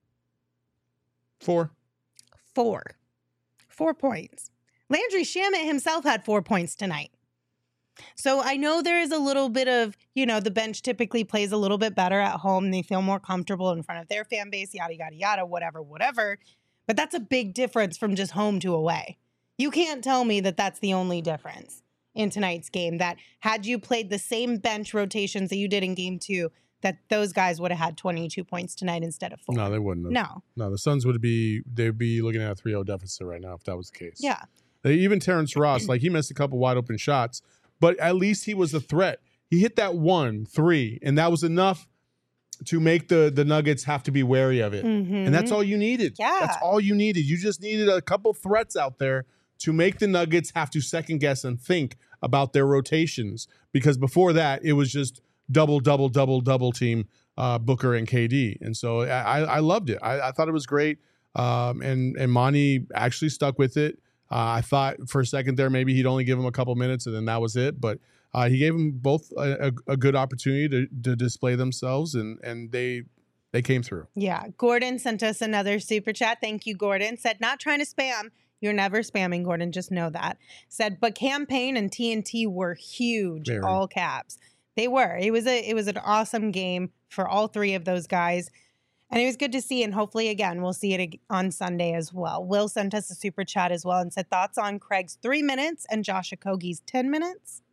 4. 4 points. Landry Shamet himself had 4 points tonight. So I know there is a little bit of, the bench typically plays a little bit better at home. They feel more comfortable in front of their fan base, yada, yada, yada, whatever. But that's a big difference from just home to away. You can't tell me that that's the only difference in tonight's game, that had you played the same bench rotations that you did in game 2, that those guys would have had 22 points tonight instead of 4. No, they wouldn't have. No, the Suns they'd be looking at a 3-0 deficit right now if that was the case. Yeah. Even Terrence Ross, he missed a couple wide open shots, but at least he was a threat. He hit that 1-3, and that was enough to make the Nuggets have to be wary of it. And that's all you needed. Yeah. That's all you needed. You just needed a couple threats out there to make the Nuggets have to second guess and think about their rotations, because before that, it was just double team Booker and KD. And so I loved it. I thought it was great. And Monty actually stuck with it. I thought for a second there maybe he'd only give him a couple minutes and then that was it. But he gave them both a good opportunity to display themselves, and they came through. Yeah. Gordon sent us another super chat. Thank you, Gordon. Said, not trying to spam. You're never spamming, Gordon. Just know that. Said, but Campaign and TNT were huge, Very. All caps. They were. It was an awesome game for all three of those guys. And it was good to see, and hopefully, again, we'll see it on Sunday as well. Will sent us a super chat as well and said, thoughts on Craig's 3 minutes and Josh Okogie's 10 minutes?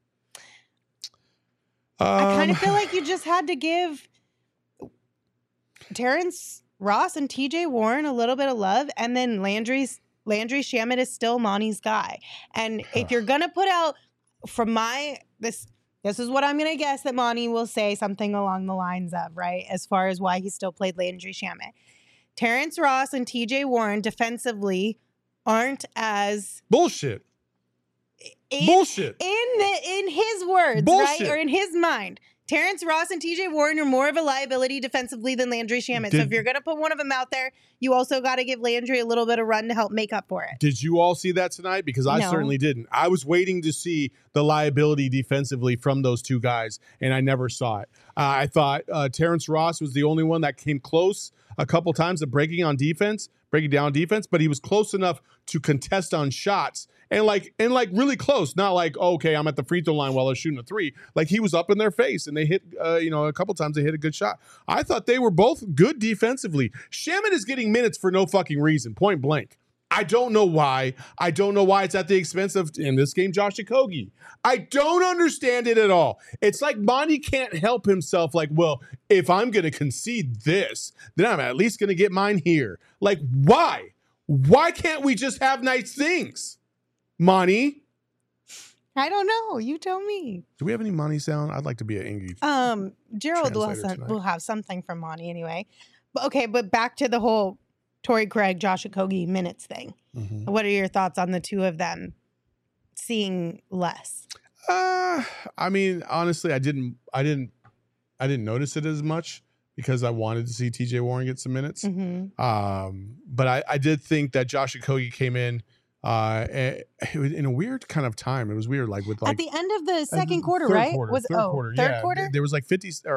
I kind of feel like you just had to give Terrence Ross and TJ Warren a little bit of love, and then Landry Shamet is still Monty's guy. And if you're going to put out, from This is what I'm going to guess that Monty will say something along the lines of, right? As far as why he still played Landry Shamet. Terrence Ross and TJ Warren defensively aren't as Bullshit. Bullshit. In his words, Bullshit. right? Or in his mind. Terrence Ross and TJ Warren are more of a liability defensively than Landry Shamet. So if you're going to put one of them out there, you also got to give Landry a little bit of run to help make up for it. Did you all see that tonight? Because I No. certainly didn't. I was waiting to see the liability defensively from those two guys, and I never saw it. I thought Terrence Ross was the only one that came close a couple times of breaking down defense, but he was close enough to contest on shots and really close. Not like, okay, I'm at the free throw line while they're shooting a three. Like he was up in their face and they hit, a couple times they hit a good shot. I thought they were both good defensively. Shamet is getting minutes for no fucking reason, point blank. I don't know why. I don't know why it's at the expense of, in this game, Josh Okogie. I don't understand it at all. It's like Monty can't help himself. Like, well, if I'm going to concede this, then I'm at least going to get mine here. Like, why? Why can't we just have nice things, Monty? I don't know. You tell me. Do we have any Monty sound? I'd like to be an Ingy. Gerald translator will have something from Monty anyway. But back to the whole Torrey Craig, Josh Okogie minutes thing. Mm-hmm. What are your thoughts on the two of them seeing less? I mean, honestly, I didn't notice it as much because I wanted to see TJ Warren get some minutes. Mm-hmm. But I did think that Josh Okogie came in in a weird kind of time. It was weird, like at the end of the second quarter, right? Third quarter. Third quarter? There was like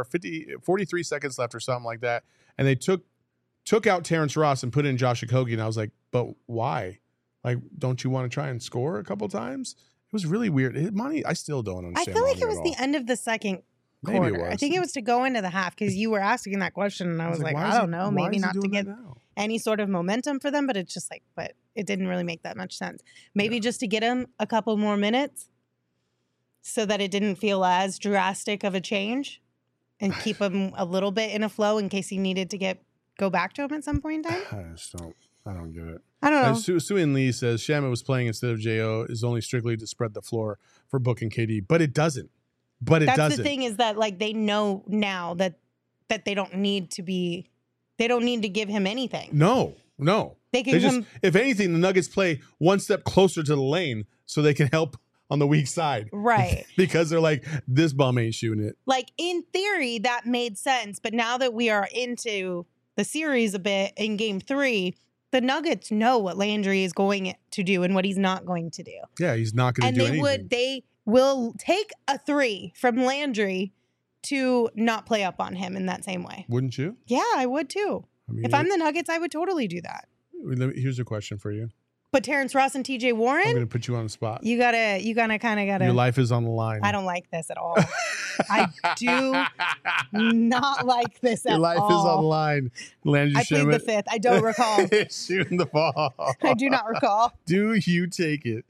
43 seconds left or something like that. And they took out Terrence Ross and put in Josh Okogie. And I was like, but why? Like, don't you want to try and score a couple times? It was really weird. Monty, I still don't understand. I feel like Monty it was at the all. end of the second Maybe quarter. it was. I think it was to go into the half because you were asking that question and I was like, why I is don't he- know, why maybe is he not to doing get that now? any sort of momentum for them, but it's just like, but it didn't really make that much sense. Maybe just to get him a couple more minutes so that it didn't feel as drastic of a change and keep him a little bit in a flow in case he needed to go back to him at some point in time. I don't get it. I don't know. Sue-Ann Lee says Shamet was playing instead of Jo is only strictly to spread the floor for Book and KD, but it doesn't. That's the thing is that like they know now that they don't need to give him anything. No. They can If anything, the Nuggets play one step closer to the lane so they can help on the weak side. Right. Because they're like, this bum ain't shooting it. Like in theory, that made sense. But now that we are into the series a bit in game 3, the Nuggets know what Landry is going to do and what he's not going to do. Yeah, he's not going to do anything. They will take a 3 from Landry to not play up on him in that same way. Wouldn't you? Yeah, I would too. I mean, If I'm the Nuggets, I would totally do that. here's a question for you. But Terrence Ross and TJ I'm going Warren, to put you on the spot. you kind of gotta. Your life is on the line. I don't like this at all. I do not like this at all. Your life is on the line. Landry I plead the Shamet fifth. I don't recall. shooting the ball. I do not recall. Do you take it?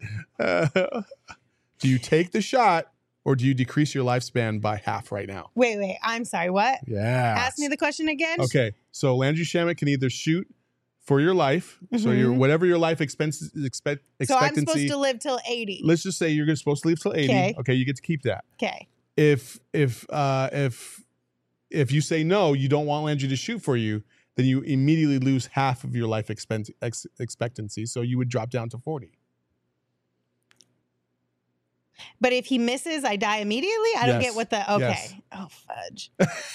Do you take the shot or do you decrease your lifespan by half right now? Wait. I'm sorry. What? Yeah. Ask me the question again. Okay. So Landry Shamet can either shoot for your life, so your whatever your life expectancy. So I'm supposed to live till 80. Let's just say you're supposed to live till 80. Okay. Okay, you get to keep that. Okay. If you say no, you don't want Landry to shoot for you, then you immediately lose half of your life expectancy. So you would drop down to 40. But if he misses, I die immediately. I don't Yes. get what the okay. Yes. Oh fudge.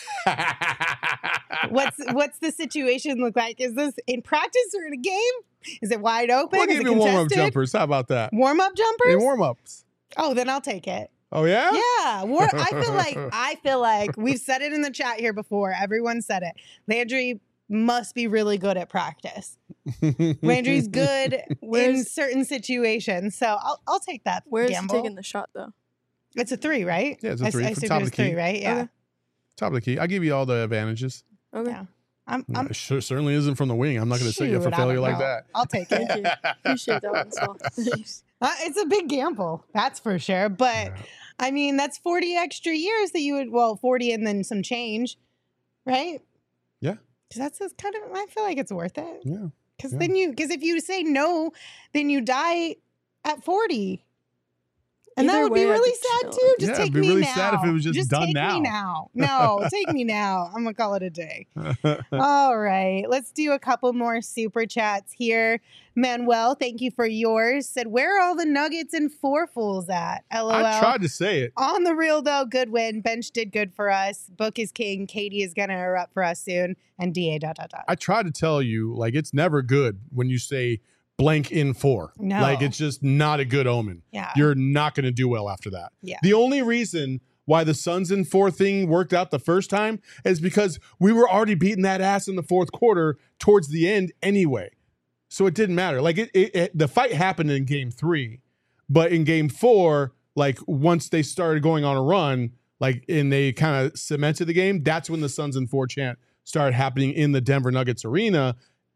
What's the situation look like? Is this in practice or in a game? Is it wide open? We'll Is give it you warm-up contested? jumpers. How about that? Warm-up jumpers? In warm-ups. Oh, then I'll take it. Oh, yeah? Yeah. I feel like we've said it in the chat here before. Everyone said it. Landry must be really good at practice. Landry's good in certain situations. So I'll take that. Where's he gamble. taking the shot though? It's a 3, right? Yeah, it's a 3 I for assumed top it was of the key. 3, right? Yeah. Okay. Top of the key. I give you all the advantages. Okay. Yeah. I'm It certainly isn't from the wing. I'm not going to set you up for shoot, I failure don't like know. that. I'll take Thank it. you. Appreciate that one, Saul. Thanks. It's a big gamble, that's for sure. But Yeah. I mean, that's 40 extra years that you would, 40 and then some change, right? Yeah. Because that's kind of, I feel like it's worth it. Yeah. Because Yeah. because if you say no, then you die at 40. And that Either would be way, I'd really be sad chilling. too. Just Yeah, take it'd be me really now. sad if it was just done take now. me now. No, take me now. I'm gonna call it a day. All right, let's do a couple more super chats here. Manuel, thank you for yours. Said, where are all the Nuggets and Four Fools at? LOL. I tried to say it. On the real though, good win. Bench did good for us. Book is king. Katie is gonna erupt for us soon. And DA ... I tried to tell you, like, it's never good when you say blank in 4. No. Like, it's just not a good omen. Yeah. You're not going to do well after that. Yeah. The only reason why the Suns in 4 thing worked out the first time is because we were already beating that ass in the fourth quarter towards the end anyway. So it didn't matter. Like, the fight happened in game 3, but in game 4, like, once they started going on a run, like, and they kind of cemented the game, that's when the Suns in 4 chant started happening in the Denver Nuggets arena.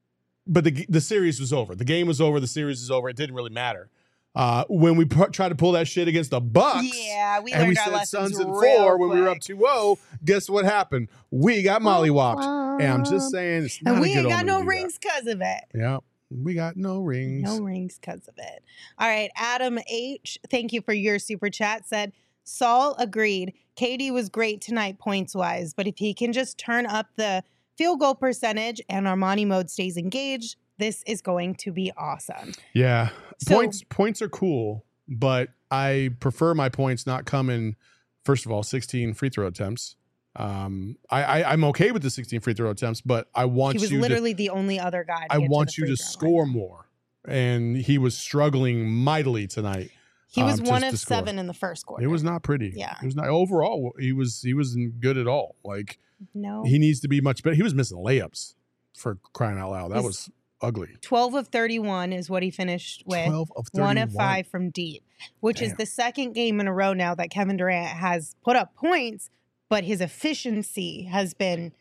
But the series was over. The game was over. The series was over. It didn't really matter. When we tried to pull that shit against the Bucks, Yeah, we and learned we our said lessons Suns in real 4 when we were up quick. 2-0, guess what happened? We got mollywopped. And I'm just saying, it's not And a we good ain't got omen no to do that. rings because of it. Yeah, we got no rings. No rings because of it. All right, Adam H., thank you for your super chat, said, Saul agreed. Katie was great tonight points-wise, but if he can just turn up the field goal percentage and Armani mode stays engaged, this is going to be awesome. Yeah, So- points are cool, but I prefer my points not come in, first of all, 16 free throw attempts. I'm okay with the 16 free throw attempts, but I want He was you to literally the only other guy to I get want to the you free to throw line. score more. And he was struggling mightily tonight. He was to 1 of score. 7 in the first quarter. It was not pretty. Yeah. It was not overall. He wasn't good at all. Like, No. he needs to be much better. He was missing layups, for crying out loud. That He's- was ugly. 12 of 31 is what he finished with. 12 of 31. 1 of 5 from deep, which is Damn. the second game in a row now that Kevin Durant has put up points, but his efficiency has been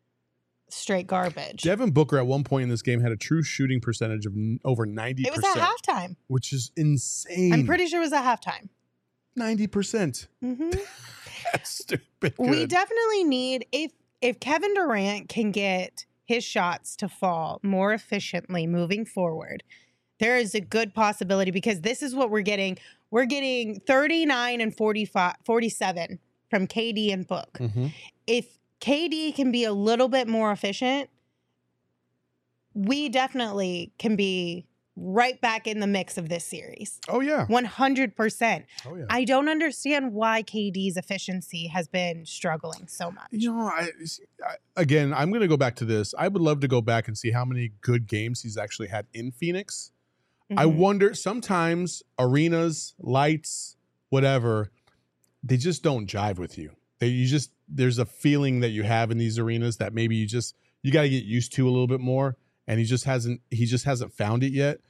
straight garbage. Devin Booker at one point in this game had a true shooting percentage of over 90%. It was at halftime. which is insane. I'm pretty sure it was at halftime. 90%. hmm That's stupid. We good. definitely need, if Kevin Durant can get his shots to fall more efficiently moving forward, there is a good possibility, because this is what we're getting. We're getting 39 and 47 from KD and Book. Mhm. If KD can be a little bit more efficient, we definitely can be right back in the mix of this series. Oh, yeah. 100%. Oh, yeah. I don't understand why KD's efficiency has been struggling so much. You know, again, I'm going to go back to this. I would love to go back and see how many good games he's actually had in Phoenix. I Mhm. wonder, sometimes arenas, lights, whatever, they just don't jive with you. There's a feeling that you have in these arenas that maybe you got to get used to a little bit more. And he just hasn't found it yet.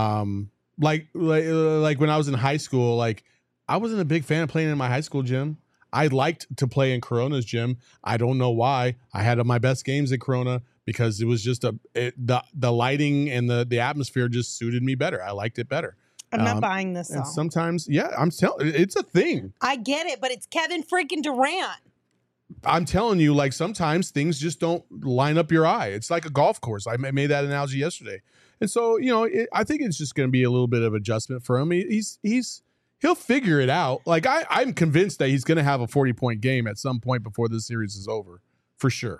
Like when I was in high school, like, I wasn't a big fan of playing in my high school gym. I liked to play in Corona's gym. I don't know why. I had my best games in Corona because it was just the lighting and the atmosphere just suited me better. I liked it better. I'm not buying this And song. sometimes, yeah, I'm telling, it's a thing. I get it, but it's Kevin freaking Durant. I'm telling you, like, sometimes things just don't line up your eye. It's like a golf course. I made that analogy yesterday. And so, you know, I think it's just going to be a little bit of adjustment for him. He'll figure it out. Like, I'm convinced that he's going to have a 40-point game at some point before this series is over, for sure.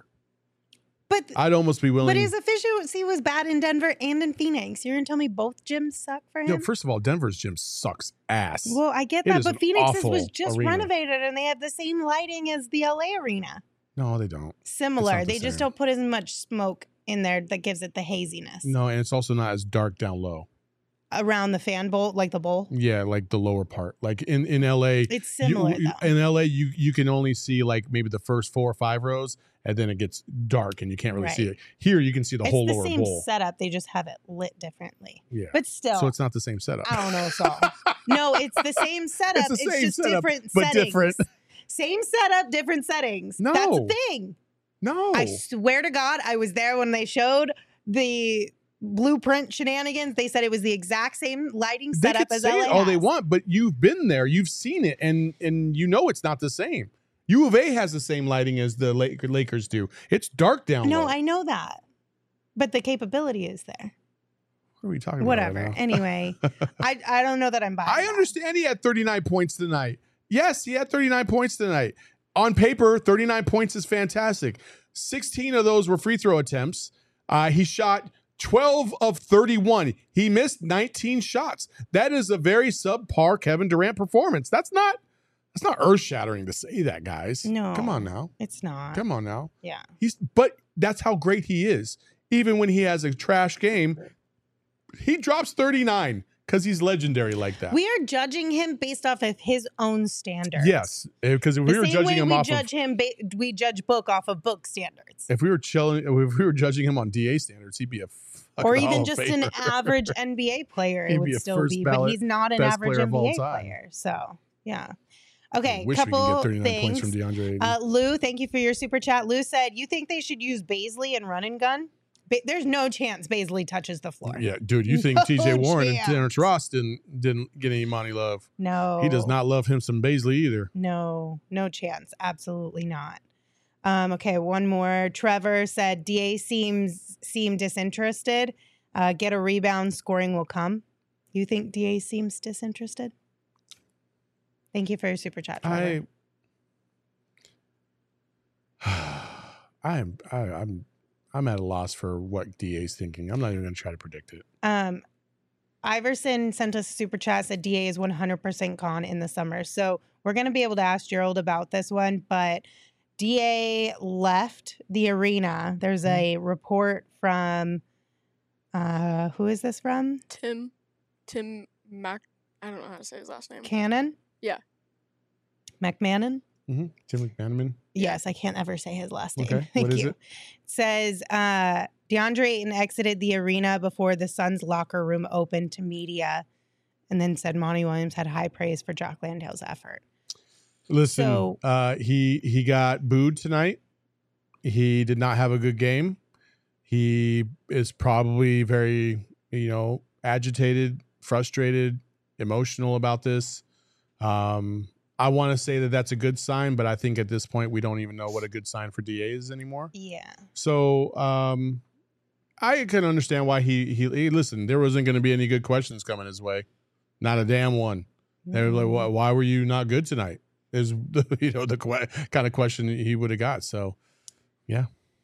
But I'd almost be willing. but his efficiency was bad in Denver and in Phoenix. You're gonna tell me both gyms suck for him? Yo, first of all, Denver's gym sucks ass. Well, I get It that, is but an Phoenix's awful was just arena. renovated and they have the same lighting as the LA arena. No, they don't. Similar. the They just same. don't put as much smoke in there that gives it the haziness. No, and it's also not as dark down low. Around the fan bowl, like the bowl. Yeah, like the lower part. Like in LA, It's similar though. in LA, you can only see like maybe the first 4 or 5 rows, and then it gets dark and you can't really see Right. it. Here, you can see the It's whole the lower same bowl. setup. They just have it lit differently. Yeah, But still, so it's not the same setup. I don't know, Saul. No, it's the same setup. It's the same just setup, different but settings. different. Same setup, different settings. No. That's the thing. No, I swear to God, I was there when they showed the blueprint shenanigans. They said it was the exact same lighting they setup could as say LA it all they has. want, but you've been there, you've seen it, and you know it's not the same. U of A has the same lighting as the Lakers do. It's dark down No, low. I know that. But the capability is there. are we talking Whatever. about right now? Anyway, I don't know that I'm buying I that. understand he had 39 points tonight. Yes, he had 39 points tonight. On paper, 39 points is fantastic. 16 of those were free throw attempts. He shot 12 of 31. He missed 19 shots. That is a very subpar Kevin Durant performance. That's not earth-shattering to say that, guys. No. Come on now. It's not. Come on now. Yeah. But that's how great he is. Even when he has a trash game, he drops 39 because he's legendary like that. We are judging him based off of his own standards. Yes, because if we were judging him off we judge book off of book standards. if we were judging him on DA standards, he'd be a fucking Or Hall even of just Famer. an average NBA player, He'd it be would a still first be, but ballot he's not an best average player of all NBA time. player. So, yeah. Okay, I wish we could couple get 39 points things. from DeAndre Ayton. Lou, thank you for your super chat. Lou said, you think they should use Baisley and run and gun? There's no chance Baisley touches the floor. Yeah, dude, you think TJ No Warren and chance. Terrence Ross didn't get any money love? No. He does not love him some Baisley either. No chance. Absolutely not. Okay, one more. Trevor said DA seem disinterested. Get a rebound, scoring will come. You think DA seems disinterested? Thank you for your super chat, Trevor. I'm at a loss for what DA's thinking. I'm not even going to try to predict it. Iverson sent us a super chat, said DA is 100% gone in the summer. So we're going to be able to ask Gerald about this one, but DA left the arena. There's a report from, who is this from? Tim Mac. I don't know how to say his last name. Cannon? Yeah. McMahon? Mm-hmm. Tim McManaman. Yes, I can't ever say his last name. Okay, Thank what is you. it? It says DeAndre Ayton exited the arena before the Suns locker room opened to media, and then said Monty Williams had high praise for Jock Landale's effort. Listen, So- he got booed tonight. He did not have a good game. He is probably very, agitated, frustrated, emotional about this. I want to say that that's a good sign, but I think at this point we don't even know what a good sign for DA is anymore. Yeah. So I can understand why he listen. There wasn't going to be any good questions coming his way, not a damn one. They were like, "Why were you not good tonight?" Is the kind of question he would have got. So, yeah.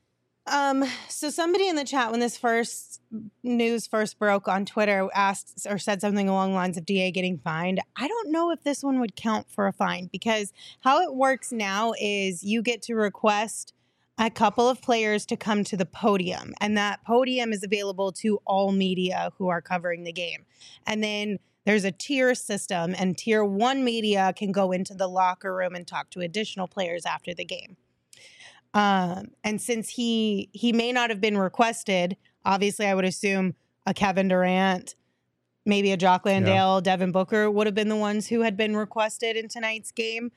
So somebody in the chat, when this news first broke on Twitter, asked or said something along the lines of DA getting fined. I don't know if this one would count for a fine, because how it works now is you get to request a couple of players to come to the podium, and that podium is available to all media who are covering the game. And then there's a tier system, and tier 1 media can go into the locker room and talk to additional players after the game. And since he may not have been requested, obviously I would assume a Kevin Durant, maybe a Jock Landale, Devin Booker would have been the ones who had been requested in tonight's game.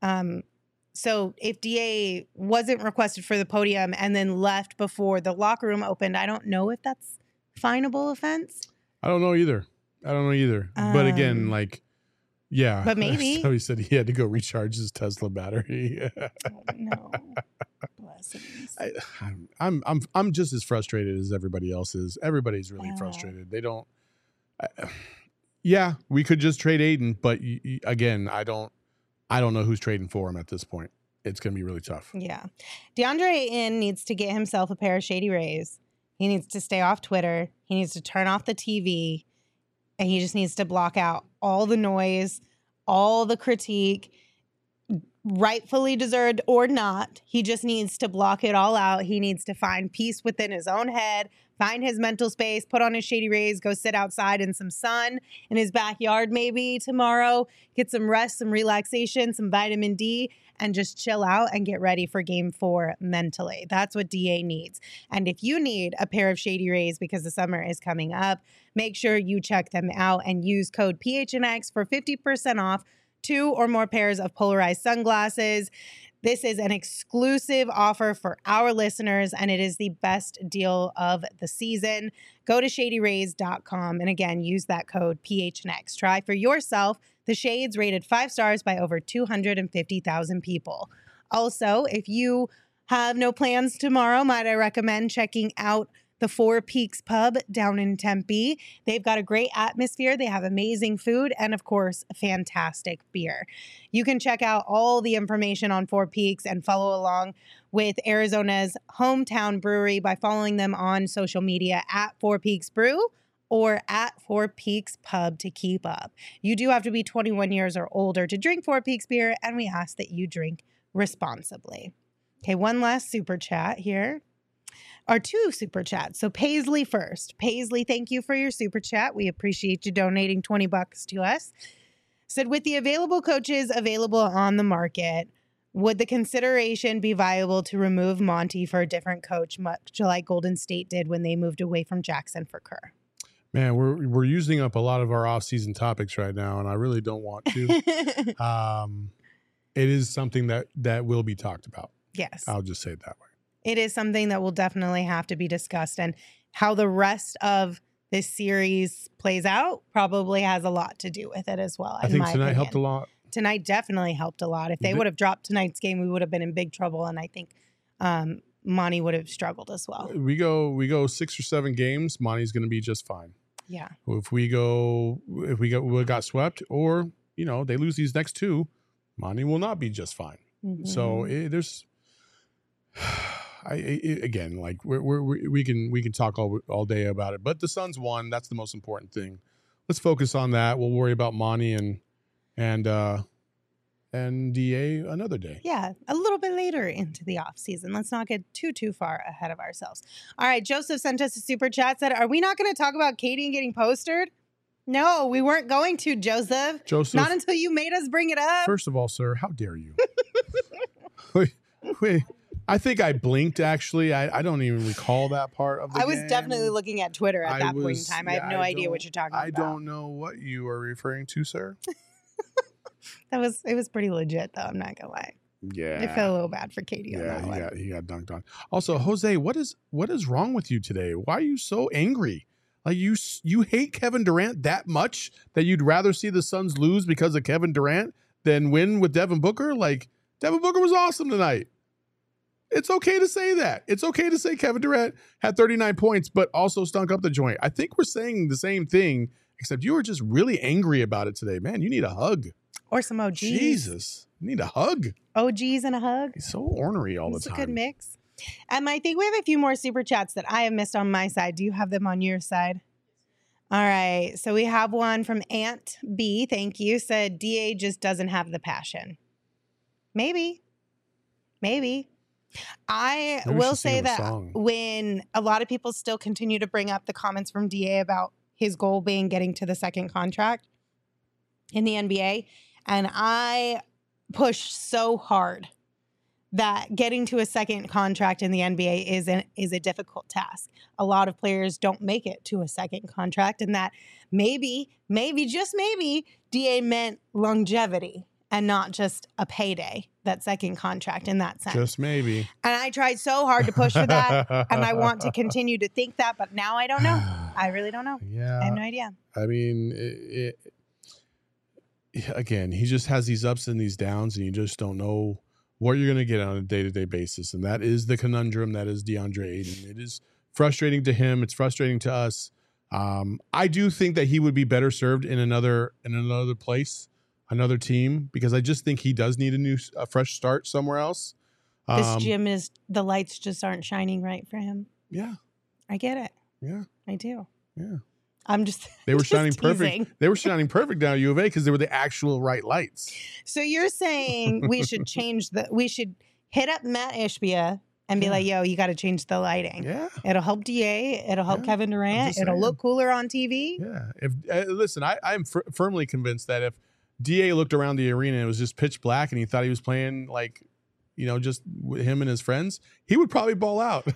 So if DA wasn't requested for the podium and then left before the locker room opened, I don't know if that's finable offense. I don't know either. But again, yeah. But maybe. So he said he had to go recharge his Tesla battery. Oh, no. Blessings. I'm just as frustrated as everybody else is. Everybody's really Yeah. frustrated. They don't. Yeah, we could just trade Aiden, but again, I don't know who's trading for him at this point. It's going to be really tough. Yeah. DeAndre Ayton needs to get himself a pair of Shady Rays. He needs to stay off Twitter. He needs to turn off the TV. And he just needs to block out all the noise, all the critique, rightfully deserved or not. He just needs to block it all out. He needs to find peace within his own head, find his mental space, put on his Shady Rays, go sit outside in some sun in his backyard maybe tomorrow, get some rest, some relaxation, some vitamin D, and just chill out and get ready for game 4 mentally. That's what DA needs. And if you need a pair of Shady Rays because the summer is coming up, make sure you check them out and use code PHNX for 50% off 2 or more pairs of polarized sunglasses. This is an exclusive offer for our listeners, and it is the best deal of the season. Go to shadyrays.com and again, use that code PHNX. Try for yourself the shades rated 5 stars by over 250,000 people. Also, if you have no plans tomorrow, might I recommend checking out the Four Peaks Pub down in Tempe. They've got a great atmosphere. They have amazing food and, of course, fantastic beer. You can check out all the information on Four Peaks and follow along with Arizona's hometown brewery by following them on social media at Four Peaks Brew or at Four Peaks Pub to keep up. You do have to be 21 years or older to drink Four Peaks beer, and we ask that you drink responsibly. Okay, one last super chat here. Or two super chats. So Paisley first. Paisley, thank you for your super chat. We appreciate you donating $20 to us. Said, with the available coaches available on the market, would the consideration be viable to remove Monty for a different coach, much like Golden State did when they moved away from Jackson for Kerr? Man, we're using up a lot of our off-season topics right now, and I really don't want to. It is something that will be talked about. Yes. I'll just say it that way. It is something that will definitely have to be discussed, and how the rest of this series plays out probably has a lot to do with it as well. I think tonight helped a lot. Tonight definitely helped a lot. If they would have dropped tonight's game, we would have been in big trouble, and I think Monty would have struggled as well. We go 6 or 7 games, Monty's going to be just fine. Yeah. If we got swept, or they lose these next 2, Monty will not be just fine. Mm-hmm. So there's. Again, like we can talk all day about it, but the Suns won. That's the most important thing. Let's focus on that. We'll worry about Monty and DA another day. Yeah, a little bit later into the off season. Let's not get too far ahead of ourselves. All right, Joseph sent us a super chat. Said, "Are we not going to talk about Katie and getting postered?" No, we weren't going to, Joseph. Not until you made us bring it up. First of all, sir, how dare you? Wait. I think I blinked, actually. I don't even recall that part of the game. I was definitely looking at Twitter at that point in time. I have no idea what you're talking about. I don't know what you are referring to, sir. It was pretty legit, though. I'm not going to lie. Yeah. I felt a little bad for Katie on that one. Yeah, he got dunked on. Also, Jose, what is wrong with you today? Why are you so angry? Like, you hate Kevin Durant that much that you'd rather see the Suns lose because of Kevin Durant than win with Devin Booker? Like, Devin Booker was awesome tonight. It's okay to say that. It's okay to say Kevin Durant had 39 points, but also stunk up the joint. I think we're saying the same thing, except you were just really angry about it today. Man, you need a hug. Or some OGs. Jesus, you need a hug. OGs and a hug. He's so ornery all the time. It's a good mix. I think we have a few more super chats that I have missed on my side. Do you have them on your side? All right. So we have one from Aunt B. Thank you. Said DA just doesn't have the passion. Maybe. I will say that when a lot of people still continue to bring up the comments from DA about his goal being getting to the second contract in the NBA, and I push so hard that getting to a second contract in the NBA is a difficult task. A lot of players don't make it to a second contract, and that maybe, just maybe, DA meant longevity and not just a payday, that second contract in that sense. Just maybe. And I tried so hard to push for that, and I want to continue to think that, but now I don't know. I really don't know. Yeah. I have no idea. I mean, again, he just has these ups and these downs, and you just don't know what you're going to get on a day-to-day basis. And that is the conundrum that is DeAndre Ayton. It is frustrating to him. It's frustrating to us. I do think that he would be better served in another place, another team, because I just think he does need a fresh start somewhere else. This gym the lights just aren't shining right for him. Yeah. I get it. Yeah. I do. Yeah. They were shining perfect. They were shining perfect down at U of A because they were the actual right lights. So you're saying we should we should hit up Matt Ishbia and be like, yo, you got to change the lighting. Yeah. It'll help DA. It'll help Kevin Durant. It'll look cooler on TV. Yeah. Listen, I'm firmly convinced that if DA looked around the arena and it was just pitch black and he thought he was playing like, just him and his friends, he would probably ball out.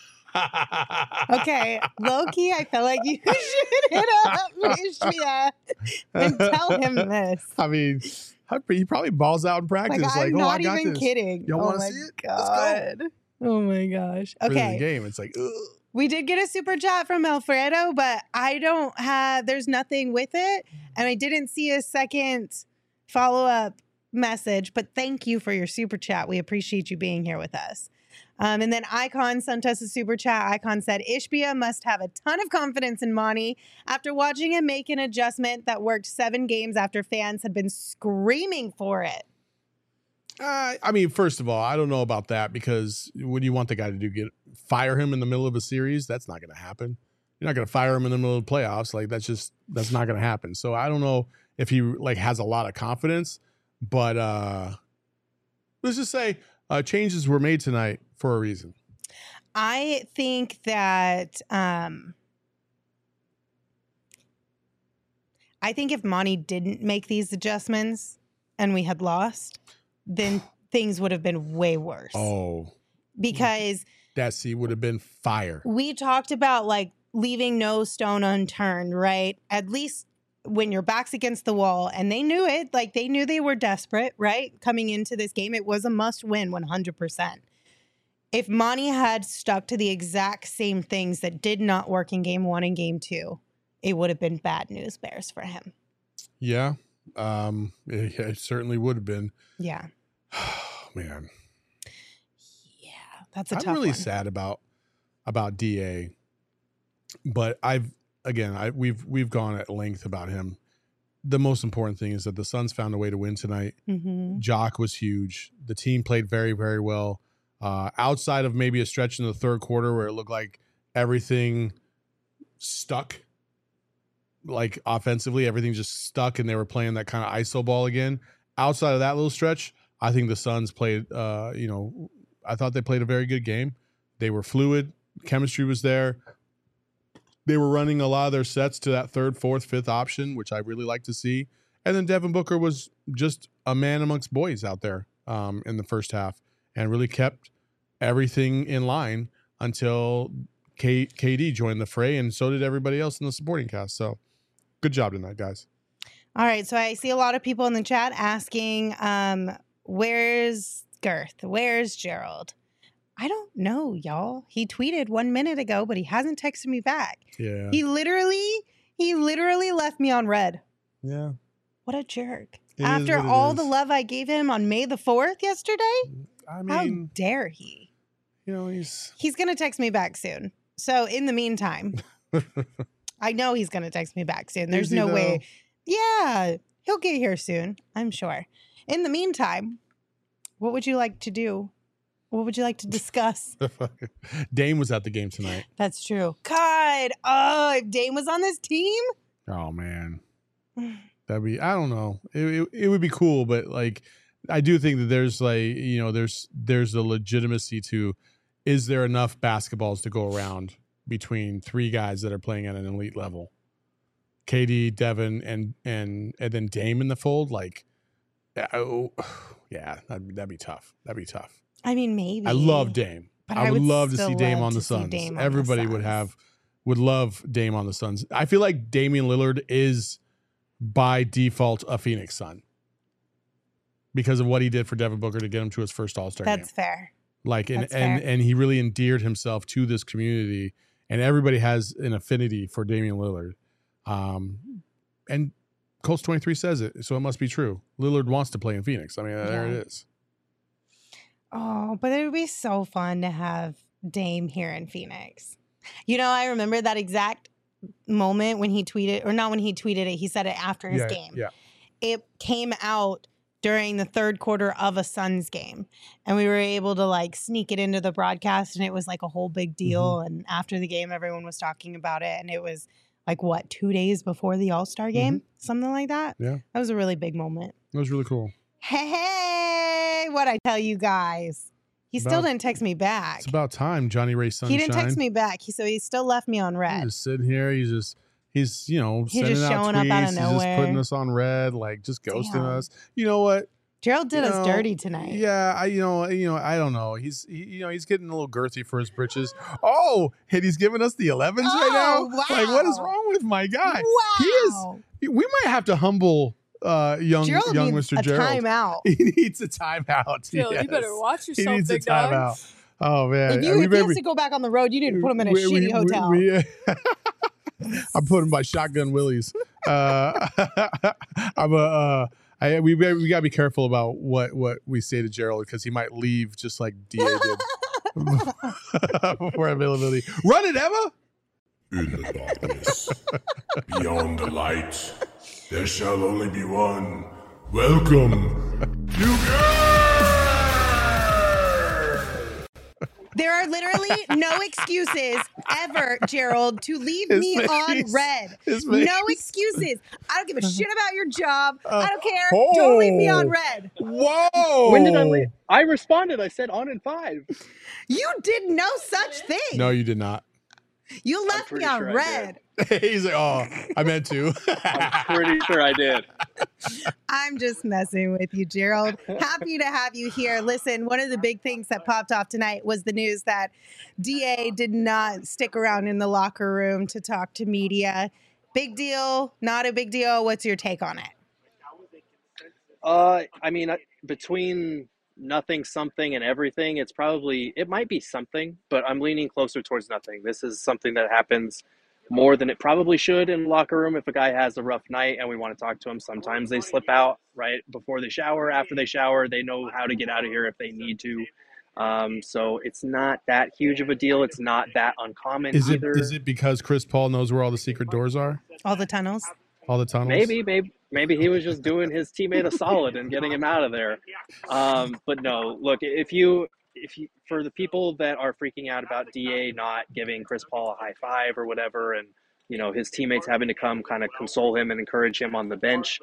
Okay, low-key, I feel like you should hit up Ishbia and tell him this. I mean, he probably balls out in practice. I'm not even kidding. Y'all want to see it? God. Let's go. Oh my gosh. Okay. For the game, it's like, ugh. We did get a super chat from Alfredo, but there's nothing with it. And I didn't see a second follow-up message, but thank you for your super chat. We appreciate you being here with us. And then Icon sent us a super chat. Icon said, Ishbia must have a ton of confidence in Monty after watching him make an adjustment that worked 7 games after fans had been screaming for it. I mean, first of all, I don't know about that because what do you want the guy to do? Fire him in the middle of a series? That's not going to happen. You're not going to fire him in the middle of the playoffs. Like that's not going to happen. So I don't know if he like has a lot of confidence, but let's just say changes were made tonight for a reason. I think that if Monty didn't make these adjustments and we had lost, then things would have been way worse. Oh, because that seat would have been fire. We talked about like leaving no stone unturned, right? At least when your back's against the wall, and they knew it, like they knew they were desperate, right? Coming into this game, it was a must win 100%. If Monty had stuck to the exact same things that did not work in game 1 and game 2, it would have been bad news bears for him. Yeah. It certainly would have been. Yeah. Man. Yeah, that's a tough I'm really one. sad about DA, but we've gone at length about him. The most important thing is that the Suns found a way to win tonight. Mm-hmm. Jock was huge. The team played very, very well. Outside of maybe a stretch in the third quarter where it looked like everything stuck. Like offensively, everything just stuck and they were playing that kind of ISO ball again. Outside of that little stretch, I think the Suns played, I thought they played a very good game. They were fluid. Chemistry was there. They were running a lot of their sets to that third, fourth, fifth option, which I really like to see. And then Devin Booker was just a man amongst boys out there in the first half and really kept everything in line until KD joined the fray, and so did everybody else in the supporting cast. So good job tonight, guys. All right. So I see a lot of people in the chat asking, where's Girth? Where's Gerald? I don't know, y'all. He tweeted 1 minute ago, but he hasn't texted me back. Yeah. He literally left me on red. Yeah. What a jerk. It After is what it all is. the love I gave him on May the 4th yesterday, I how mean, dare he? he's going to text me back soon. So in the meantime, I know he's going to text me back soon. There's Is he no though? way. Yeah, he'll get here soon, I'm sure. In the meantime, what would you like to do? What would you like to discuss? Dame was at the game tonight. That's true. God, oh, if Dame was on this team? Oh man, that'd be, I don't know. It would be cool, but like I do think that there's like, there's the legitimacy to, is there enough basketballs to go around between 3 guys that are playing at an elite level? KD, Devin, and then Dame in the fold. Like, yeah, that'd be tough. That'd be tough. I mean, maybe. I love Dame. But I would love to still see Dame love on the to see Suns. Dame on the Everybody Suns. would love Dame on the Suns. I feel like Damian Lillard is by default a Phoenix Sun because of what he did for Devin Booker to get him to his first All-Star game. That's fair. Like, That's fair. and he really endeared himself to this community, and everybody has an affinity for Damian Lillard. And Colts 23 says it, so it must be true. Lillard wants to play in Phoenix. I mean, there it is. Oh, but it would be so fun to have Dame here in Phoenix. I remember that exact moment when he tweeted, or not when he tweeted it, he said it after his game. Yeah. It came out during the third quarter of a Suns game, and we were able to like sneak it into the broadcast, and it was like a whole big deal. And after the game, everyone was talking about it, and it was like, 2 days before the All-Star game? Something like that. Yeah. That was a really big moment. That was really cool. Hey, what'd I tell you guys? He still didn't text me back. It's about time, Johnny Ray Sunshine. He didn't text me back. So he still left me on red. He's just sitting here. He's sending just out showing tweets. up out of He's nowhere. just putting us on red, like just ghosting Damn. us. You know what? Gerald did us dirty tonight. Yeah, I don't know. He's getting a little girthy for his britches. Oh, and he's giving us the 11s right now. Wow. Like, what is wrong with my guy? Wow. We might have to humble young Gerald needs Mr. a Gerald. timeout. He needs a timeout. Phil, Yes. you better watch He yourself, needs a big dog. timeout. Oh man, If he has to go back on the road, you need to put him in a shitty hotel. I put him by Shotgun Willie's. We gotta be careful about what we say to Gerald because he might leave just like Da did. for availability. Run it, Emma. In the darkness, beyond the light, there shall only be one. Welcome, you There are literally no excuses ever, Gerald, to leave me on red. No excuses. I don't give a shit about your job. I don't care. Don't leave me on red. Whoa. When did I leave? I responded. I said on in 5. You did no such thing. No, you did not. You left me on sure I red. He's like, oh, I meant to. I'm pretty sure I did. I'm just messing with you, Gerald. Happy to have you here. Listen, one of the big things that popped off tonight was the news that DA did not stick around in the locker room to talk to media. Big deal? Not a big deal? What's your take on it? I mean, between nothing, something, and everything, it might be something, but I'm leaning closer towards nothing. This is something that happens more than it probably should in the locker room. If a guy has a rough night and we want to talk to him, sometimes they slip out right before they shower, after they shower. They know how to get out of here if they need to. So it's not that huge of a deal. It's not that uncommon either. Is it because Chris Paul knows where all the secret doors are? All the tunnels? All the tunnels? Maybe he was just doing his teammate a solid and getting him out of there. But no, look, if you for the people that are freaking out about DA not giving Chris Paul a high five or whatever, and his teammates having to come kind of console him and encourage him on the bench,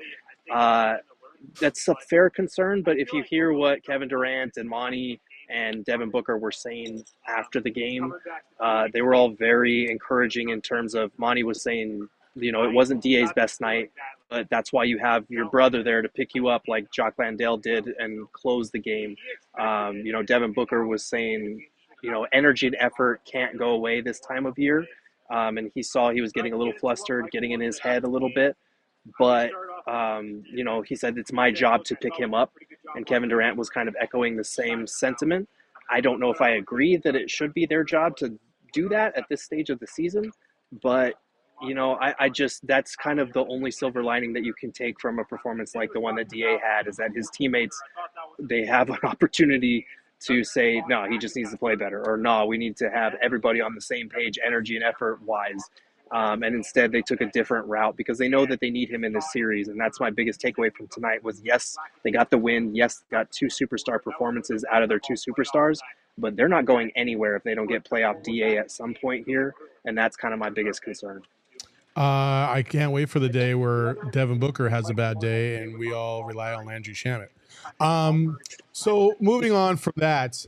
that's a fair concern. But if you hear what Kevin Durant and Monty and Devin Booker were saying after the game, they were all very encouraging in terms of Monty was saying, it wasn't DA's best night, but that's why you have your brother there to pick you up like Jock Landale did and close the game. Devin Booker was saying, energy and effort can't go away this time of year. And he saw he was getting a little flustered, getting in his head a little bit. But, he said, it's my job to pick him up. And Kevin Durant was kind of echoing the same sentiment. I don't know if I agree that it should be their job to do that at this stage of the season, but I just, that's kind of the only silver lining that you can take from a performance like the one that DA had, is that his teammates, they have an opportunity to say, no, he just needs to play better, or no, we need to have everybody on the same page, energy and effort wise. And instead they took a different route because they know that they need him in this series. And that's my biggest takeaway from tonight was, yes, they got the win. Yes, they got 2 superstar performances out of their 2 superstars, but they're not going anywhere if they don't get playoff DA at some point here. And that's kind of my biggest concern. I can't wait for the day where Devin Booker has a bad day and we all rely on Landry Shamet. So moving on from that,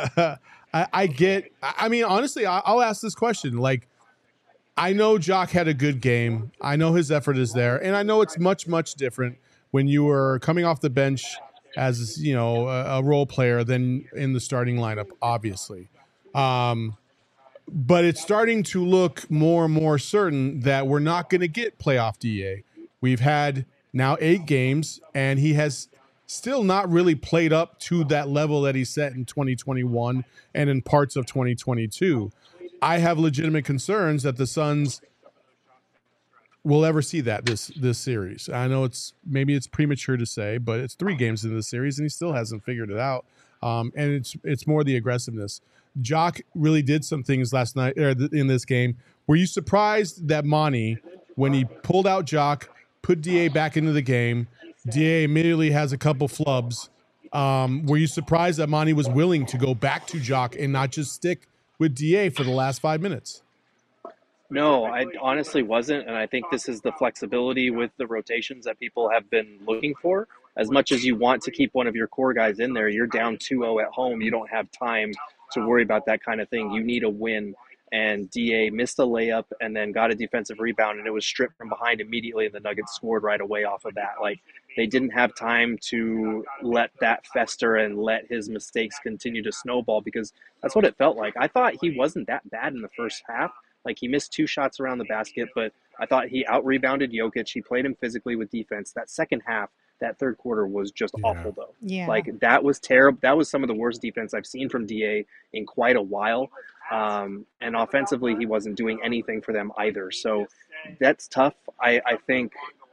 honestly, I'll ask this question. Like, I know Jock had a good game. I know his effort is there. And I know it's much, much different when you were coming off the bench as, a role player than in the starting lineup, obviously. But it's starting to look more and more certain that we're not going to get playoff DA. We've had now 8 games, and he has still not really played up to that level that he set in 2021 and in parts of 2022. I have legitimate concerns that the Suns will ever see that this series. I know it's premature to say, but it's 3 games into the series, and he still hasn't figured it out. And it's more the aggressiveness. Jock really did some things last night in this game. Were you surprised that Monty, when he pulled out Jock, put DA back into the game, DA immediately has a couple flubs? Were you surprised that Monty was willing to go back to Jock and not just stick with DA for the last 5 minutes? No, I honestly wasn't. And I think this is the flexibility with the rotations that people have been looking for. As much as you want to keep one of your core guys in there, you're down 2-0 at home. You don't have time to worry about that kind of thing. You need a win. And DA missed a layup and then got a defensive rebound, and it was stripped from behind immediately, and the Nuggets scored right away off of that. Like, they didn't have time to let that fester and let his mistakes continue to snowball, because that's what it felt like. I thought he wasn't that bad in the first half. Like, he missed 2 shots around the basket, but I thought he out-rebounded Jokic. He played him physically with defense. That second half, that third quarter was just awful, though. Yeah. Like, that was terrible. That was some of the worst defense I've seen from DA in quite a while. And offensively, he wasn't doing anything for them either. So that's tough. I think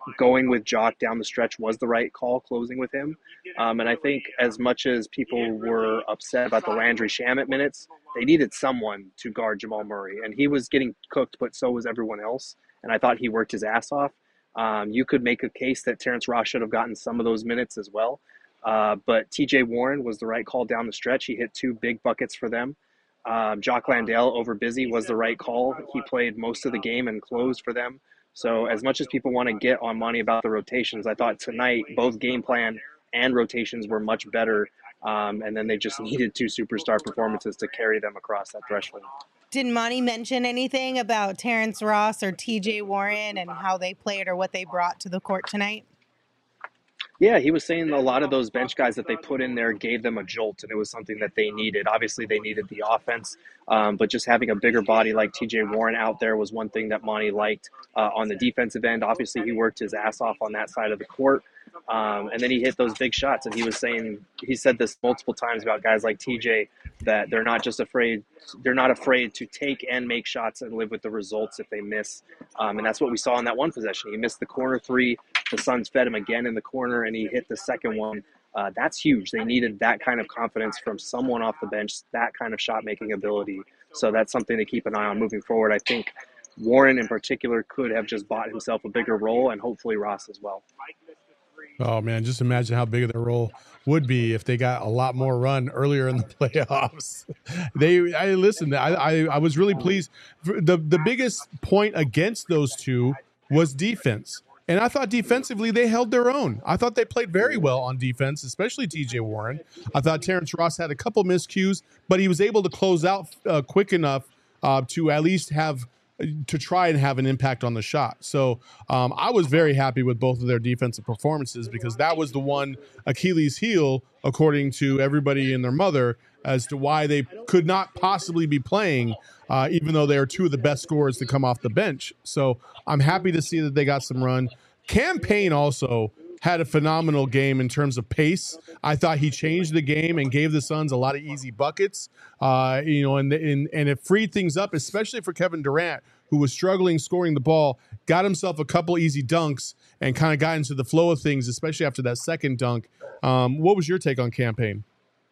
going with Jock down the stretch was the right call, closing with him. And I think as much as people were upset about the Landry Shamet minutes, they needed someone to guard Jamal Murray. And he was getting cooked, but so was everyone else. And I thought he worked his ass off. You could make a case that Terrence Ross should have gotten some of those minutes as well. But TJ Warren was the right call down the stretch. He hit 2 big buckets for them. Jock Landale over Busy was the right call. He played most of the game and closed for them. So as much as people want to get on Monty about the rotations, I thought tonight both game plan and rotations were much better. And then they just needed 2 superstar performances to carry them across that threshold. Did Monty mention anything about Terrence Ross or TJ Warren and how they played or what they brought to the court tonight? Yeah, he was saying a lot of those bench guys that they put in there gave them a jolt, and it was something that they needed. Obviously, they needed the offense, but just having a bigger body like TJ Warren out there was one thing that Monty liked. On the defensive end, obviously, he worked his ass off on that side of the court, and then he hit those big shots. And he said this multiple times about guys like TJ, that they're not afraid to take and make shots and live with the results if they miss. And that's what we saw in that one possession. He missed the corner 3. The Suns fed him again in the corner, and he hit the second one. That's huge. They needed that kind of confidence from someone off the bench, that kind of shot-making ability. So that's something to keep an eye on moving forward. I think Warren in particular could have just bought himself a bigger role, and hopefully Ross as well. Oh, man, just imagine how big their role would be if they got a lot more run earlier in the playoffs. I was really pleased. The biggest point against those two was defense. And I thought defensively they held their own. I thought they played very well on defense, especially TJ Warren. I thought Terrence Ross had a couple miscues, but he was able to close out quick enough to at least try and have an impact on the shot. So I was very happy with both of their defensive performances, because that was the one Achilles heel, according to everybody and their mother, as to why they could not possibly be playing, even though they are 2 of the best scorers to come off the bench. So I'm happy to see that they got some run. Cam Payne also had a phenomenal game in terms of pace. I thought he changed the game and gave the Suns a lot of easy buckets, and it freed things up, especially for Kevin Durant, who was struggling scoring the ball, got himself a couple easy dunks and kind of got into the flow of things, especially after that second dunk. What was your take on Cam Payne?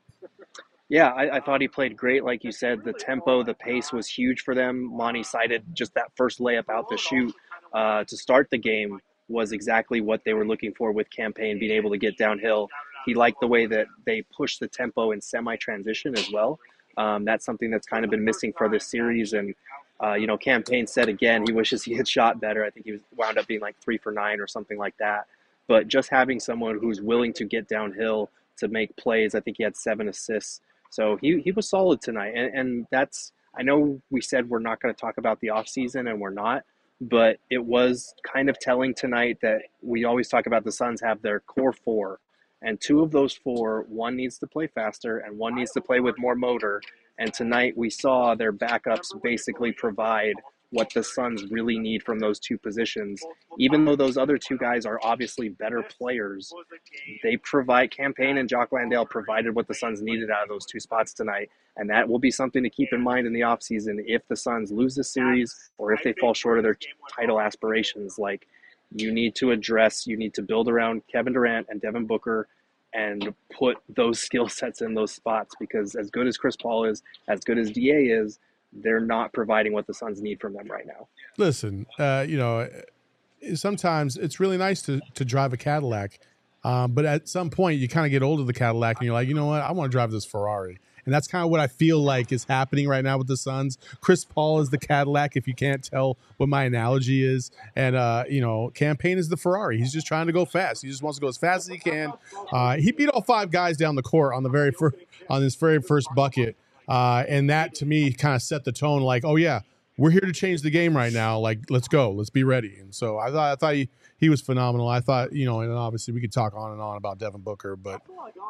Yeah, I thought he played great. Like you said, the tempo, the pace was huge for them. Monty cited just that first layup out the chute to start the game was exactly what they were looking for with Cam Payne, being able to get downhill. He liked the way that they pushed the tempo in semi-transition as well. That's something that's kind of been missing for this series. And, Cam Payne said again, he wishes he had shot better. I think he wound up being like 3 for 9 or something like that. But just having someone who's willing to get downhill to make plays, I think he had 7 assists. So he was solid tonight. And that's, I know we said we're not going to talk about the offseason, and we're not, but it was kind of telling tonight that we always talk about the Suns have their core 4, and 2 of those 4, one needs to play faster and one needs to play with more motor. And tonight we saw their backups basically provide what the Suns really need from those 2 positions. Even though those other 2 guys are obviously better players, they provide, Cam Payne and Jock Landale provided what the Suns needed out of those 2 spots tonight. And that will be something to keep in mind in the offseason if the Suns lose the series or if they fall short of their title aspirations. Like, you need to build around Kevin Durant and Devin Booker and put those skill sets in those spots, because as good as Chris Paul is, as good as DA is, they're not providing what the Suns need from them right now. Listen, sometimes it's really nice to drive a Cadillac, but at some point you kind of get old of the Cadillac and you're like, you know what, I want to drive this Ferrari. And that's kind of what I feel like is happening right now with the Suns. Chris Paul is the Cadillac, if you can't tell what my analogy is. And, Cam Payne is the Ferrari. He's just trying to go fast. He just wants to go as fast as he can. He beat all 5 guys down the court on his very first bucket. And that, to me, kind of set the tone like, oh, yeah, we're here to change the game right now. Like, let's go. Let's be ready. And so I thought he was phenomenal. I thought, and obviously we could talk on and on about Devin Booker, but,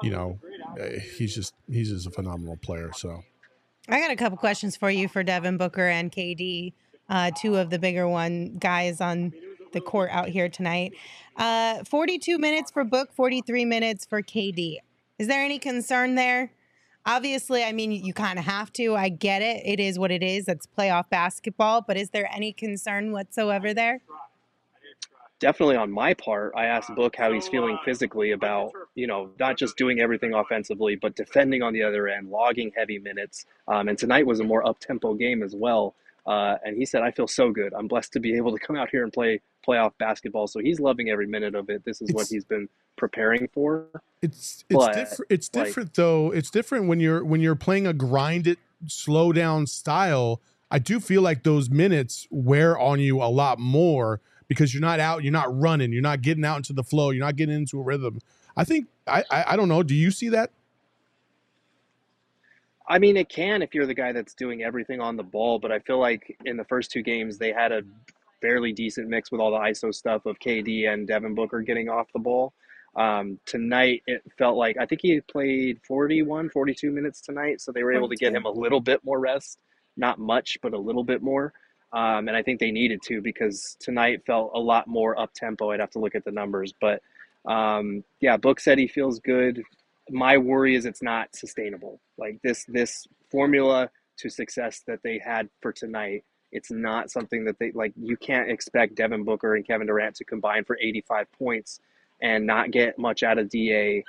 he's just a phenomenal player. So I got a couple questions for you for Devin Booker and KD, 2 of the bigger guys on the court out here tonight. 42 minutes for Book, 43 minutes for KD. Is there any concern there? Obviously, I mean, you kind of have to. I get it. It is what it is. It's playoff basketball. But is there any concern whatsoever there? definitely on my part, I asked Book how he's feeling physically about, not just doing everything offensively, but defending on the other end, logging heavy minutes. And tonight was a more up-tempo game as well. And he said, I feel so good. I'm blessed to be able to come out here and play playoff basketball. So he's loving every minute of it. This is what he's been preparing for. It's different. It's different though. It's different when you're playing a grinded, slow down style. I do feel like those minutes wear on you a lot more because you're not out, you're not running, you're not getting out into the flow, you're not getting into a rhythm. I think I don't know. Do you see that? I mean, it can if you're the guy that's doing everything on the ball, but I feel like in the first two games they had a fairly decent mix with all the ISO stuff of KD and Devin Booker getting off the ball. Tonight, it felt like, I think he played 41, 42 minutes tonight, so they were able to get him a little bit more rest. Not much, but a little bit more. And I think they needed to because tonight felt a lot more up-tempo. I'd have to look at the numbers. But, Book said he feels good. My worry is it's not sustainable. Like this formula to success that they had for tonight, it's not something that you can't expect Devin Booker and Kevin Durant to combine for 85 points and not get much out of DA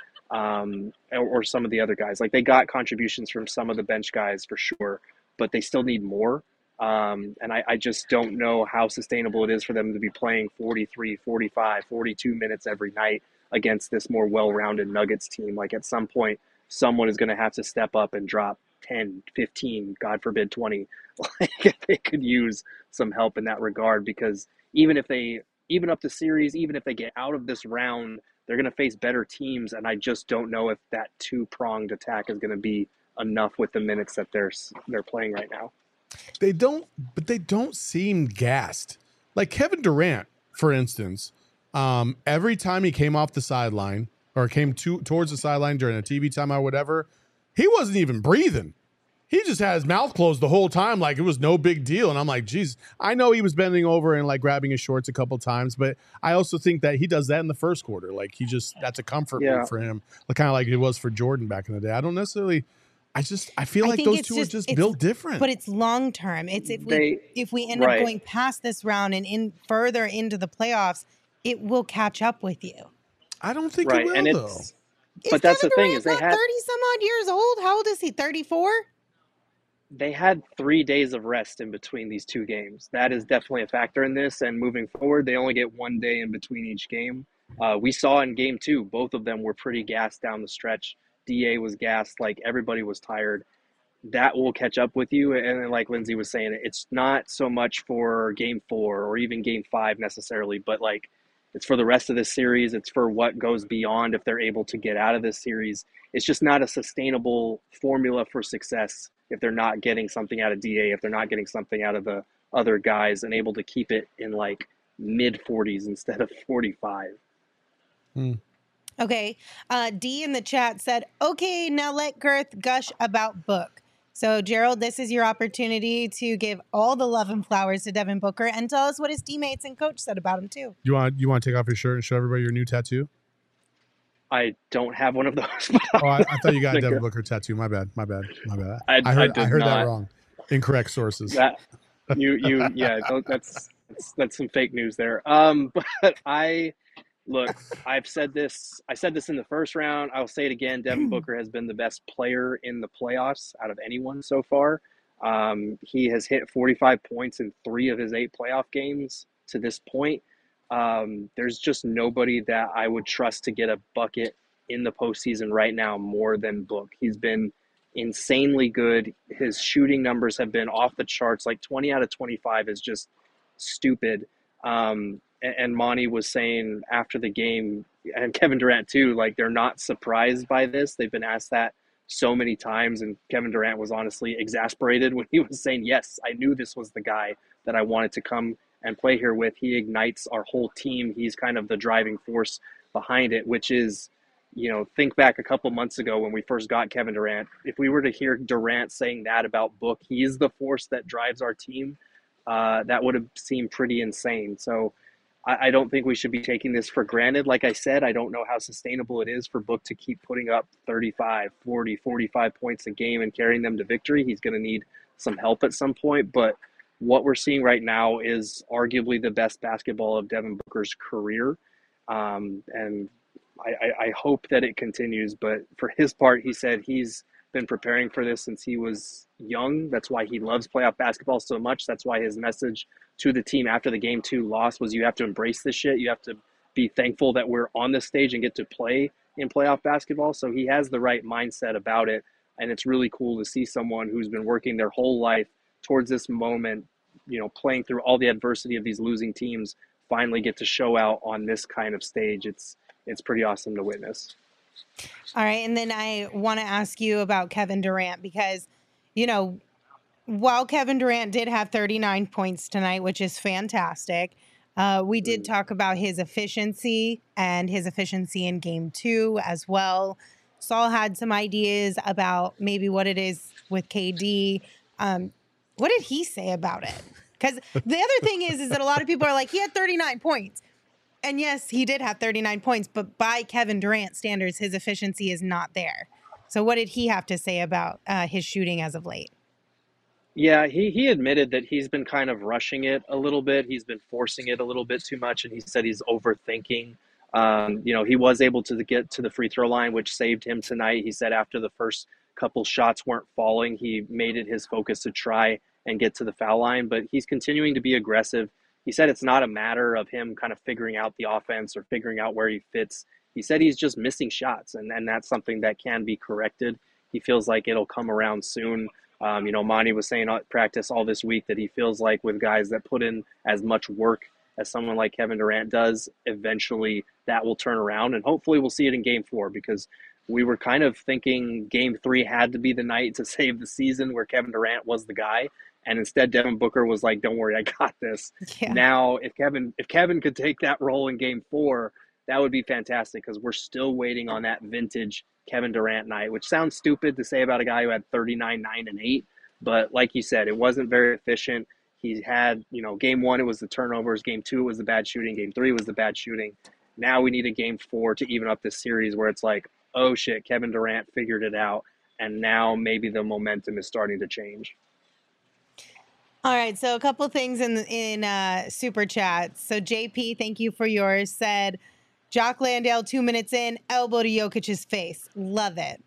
or some of the other guys. Like they got contributions from some of the bench guys for sure, but they still need more. And I just don't know how sustainable it is for them to be playing 43, 45, 42 minutes every night against this more well-rounded Nuggets team. Like at some point, someone is going to have to step up and drop 10, 15, God forbid 20. Like they could use some help in that regard because even up the series, even if they get out of this round, they're going to face better teams. And I just don't know if that two-pronged attack is going to be enough with the minutes that they're playing right now. They don't seem gassed. Like Kevin Durant, for instance, every time he came off the sideline or came towards the sideline during a TV timeout or whatever, he wasn't even breathing. He just had his mouth closed the whole time like it was no big deal. And I'm like, geez, I know he was bending over and like grabbing his shorts a couple times, but I also think that he does that in the first quarter. Like that's a comfort move for him, kind of like it was for Jordan back in the day. I don't necessarily – I feel like those two are just built different. But it's long term. It's if we end up going past this round and further into the playoffs, it will catch up with you. I don't think it will, though. But that's the thing is they had 30 some odd years old. How old is he? 34? They had 3 days of rest in between these two games. That is definitely a factor in this. And moving forward, they only get 1 day in between each game. We saw in game 2, both of them were pretty gassed down the stretch. DA was gassed, like everybody was tired. That will catch up with you. And then, like Lindsay was saying, it's not so much for game 4 or even game 5 necessarily, but like it's for the rest of this series. It's for what goes beyond if they're able to get out of this series. It's just not a sustainable formula for success if they're not getting something out of DA, if they're not getting something out of the other guys and able to keep it in like mid 40s instead of 45. Okay. D in the chat said, okay, now let Girth gush about Book. So, Gerald, this is your opportunity to give all the love and flowers to Devin Booker and tell us what his teammates and coach said about him, too. You want to take off your shirt and show everybody your new tattoo? I don't have one of those. I thought you got a Devin Booker tattoo. My bad. I heard that wrong. Incorrect sources. That's some fake news there. But I've said this. I said this in the first round. I'll say it again. Devin Booker has been the best player in the playoffs out of anyone so far. He has hit 45 points in 3 of his 8 playoff games to this point. There's just nobody that I would trust to get a bucket in the postseason right now more than Book. He's been insanely good. His shooting numbers have been off the charts. Like 20 out of 25 is just stupid. And Monty was saying after the game, and Kevin Durant too, like they're not surprised by this. They've been asked that so many times, and Kevin Durant was honestly exasperated when he was saying, yes, I knew this was the guy that I wanted to come and play here with. He ignites our whole team. He's kind of the driving force behind it, which is, think back a couple months ago when we first got Kevin Durant. If we were to hear Durant saying that about Book, he is the force that drives our team, that would have seemed pretty insane. So I don't think we should be taking this for granted. Like I said, I don't know how sustainable it is for Book to keep putting up 35, 40, 45 points a game and carrying them to victory. He's going to need some help at some point. But what we're seeing right now is arguably the best basketball of Devin Booker's career. And I hope that it continues. But for his part, he said he's been preparing for this since he was young. That's why he loves playoff basketball so much. That's why his message to the team after the Game 2 loss was, you have to embrace this shit. You have to be thankful that we're on this stage and get to play in playoff basketball. So he has the right mindset about it. And it's really cool to see someone who's been working their whole life towards this moment, you know, playing through all the adversity of these losing teams, finally get to show out on this kind of stage. It's pretty awesome to witness. All right. And then I want to ask you about Kevin Durant, because, you know, while Kevin Durant did have 39 points tonight, which is fantastic, we did talk about his efficiency and his efficiency in Game 2 as well. Saul had some ideas about maybe what it is with KD. What did he say about it? Because the other thing is that a lot of people are like, he had 39 points. And yes, he did have 39 points, but by Kevin Durant standards, his efficiency is not there. So what did he have to say about his shooting as of late? Yeah, he admitted that he's been kind of rushing it a little bit. He's been forcing it a little bit too much, and he said he's overthinking. You know, he was able to get to the free throw line, which saved him tonight. He said after the first couple shots weren't falling, he made it his focus to try and get to the foul line, but he's continuing to be aggressive. He said it's not a matter of him kind of figuring out the offense or figuring out where he fits. He said he's just missing shots, and that's something that can be corrected. He feels like it'll come around soon. You know, Monty was saying at practice all this week that he feels like with guys that put in as much work as someone like Kevin Durant does, eventually that will turn around, and hopefully we'll see it in Game 4, because we were kind of thinking Game 3 had to be the night to save the season where Kevin Durant was the guy. And instead, Devin Booker was like, don't worry, I got this. Yeah. Now, if Kevin could take that role in Game 4, that would be fantastic, because we're still waiting on that vintage Kevin Durant night, which sounds stupid to say about a guy who had 39, 9, and 8. But like you said, it wasn't very efficient. He had, you know, Game 1, it was the turnovers. Game 2, it was the bad shooting. Game 3 was the bad shooting. Now we need a Game 4 to even up this series where it's like, oh, shit, Kevin Durant figured it out. And now maybe the momentum is starting to change. All right, so a couple things in Super Chats. So JP, thank you for yours, said, Jock Landale, 2 minutes in, elbow to Jokic's face. Love it.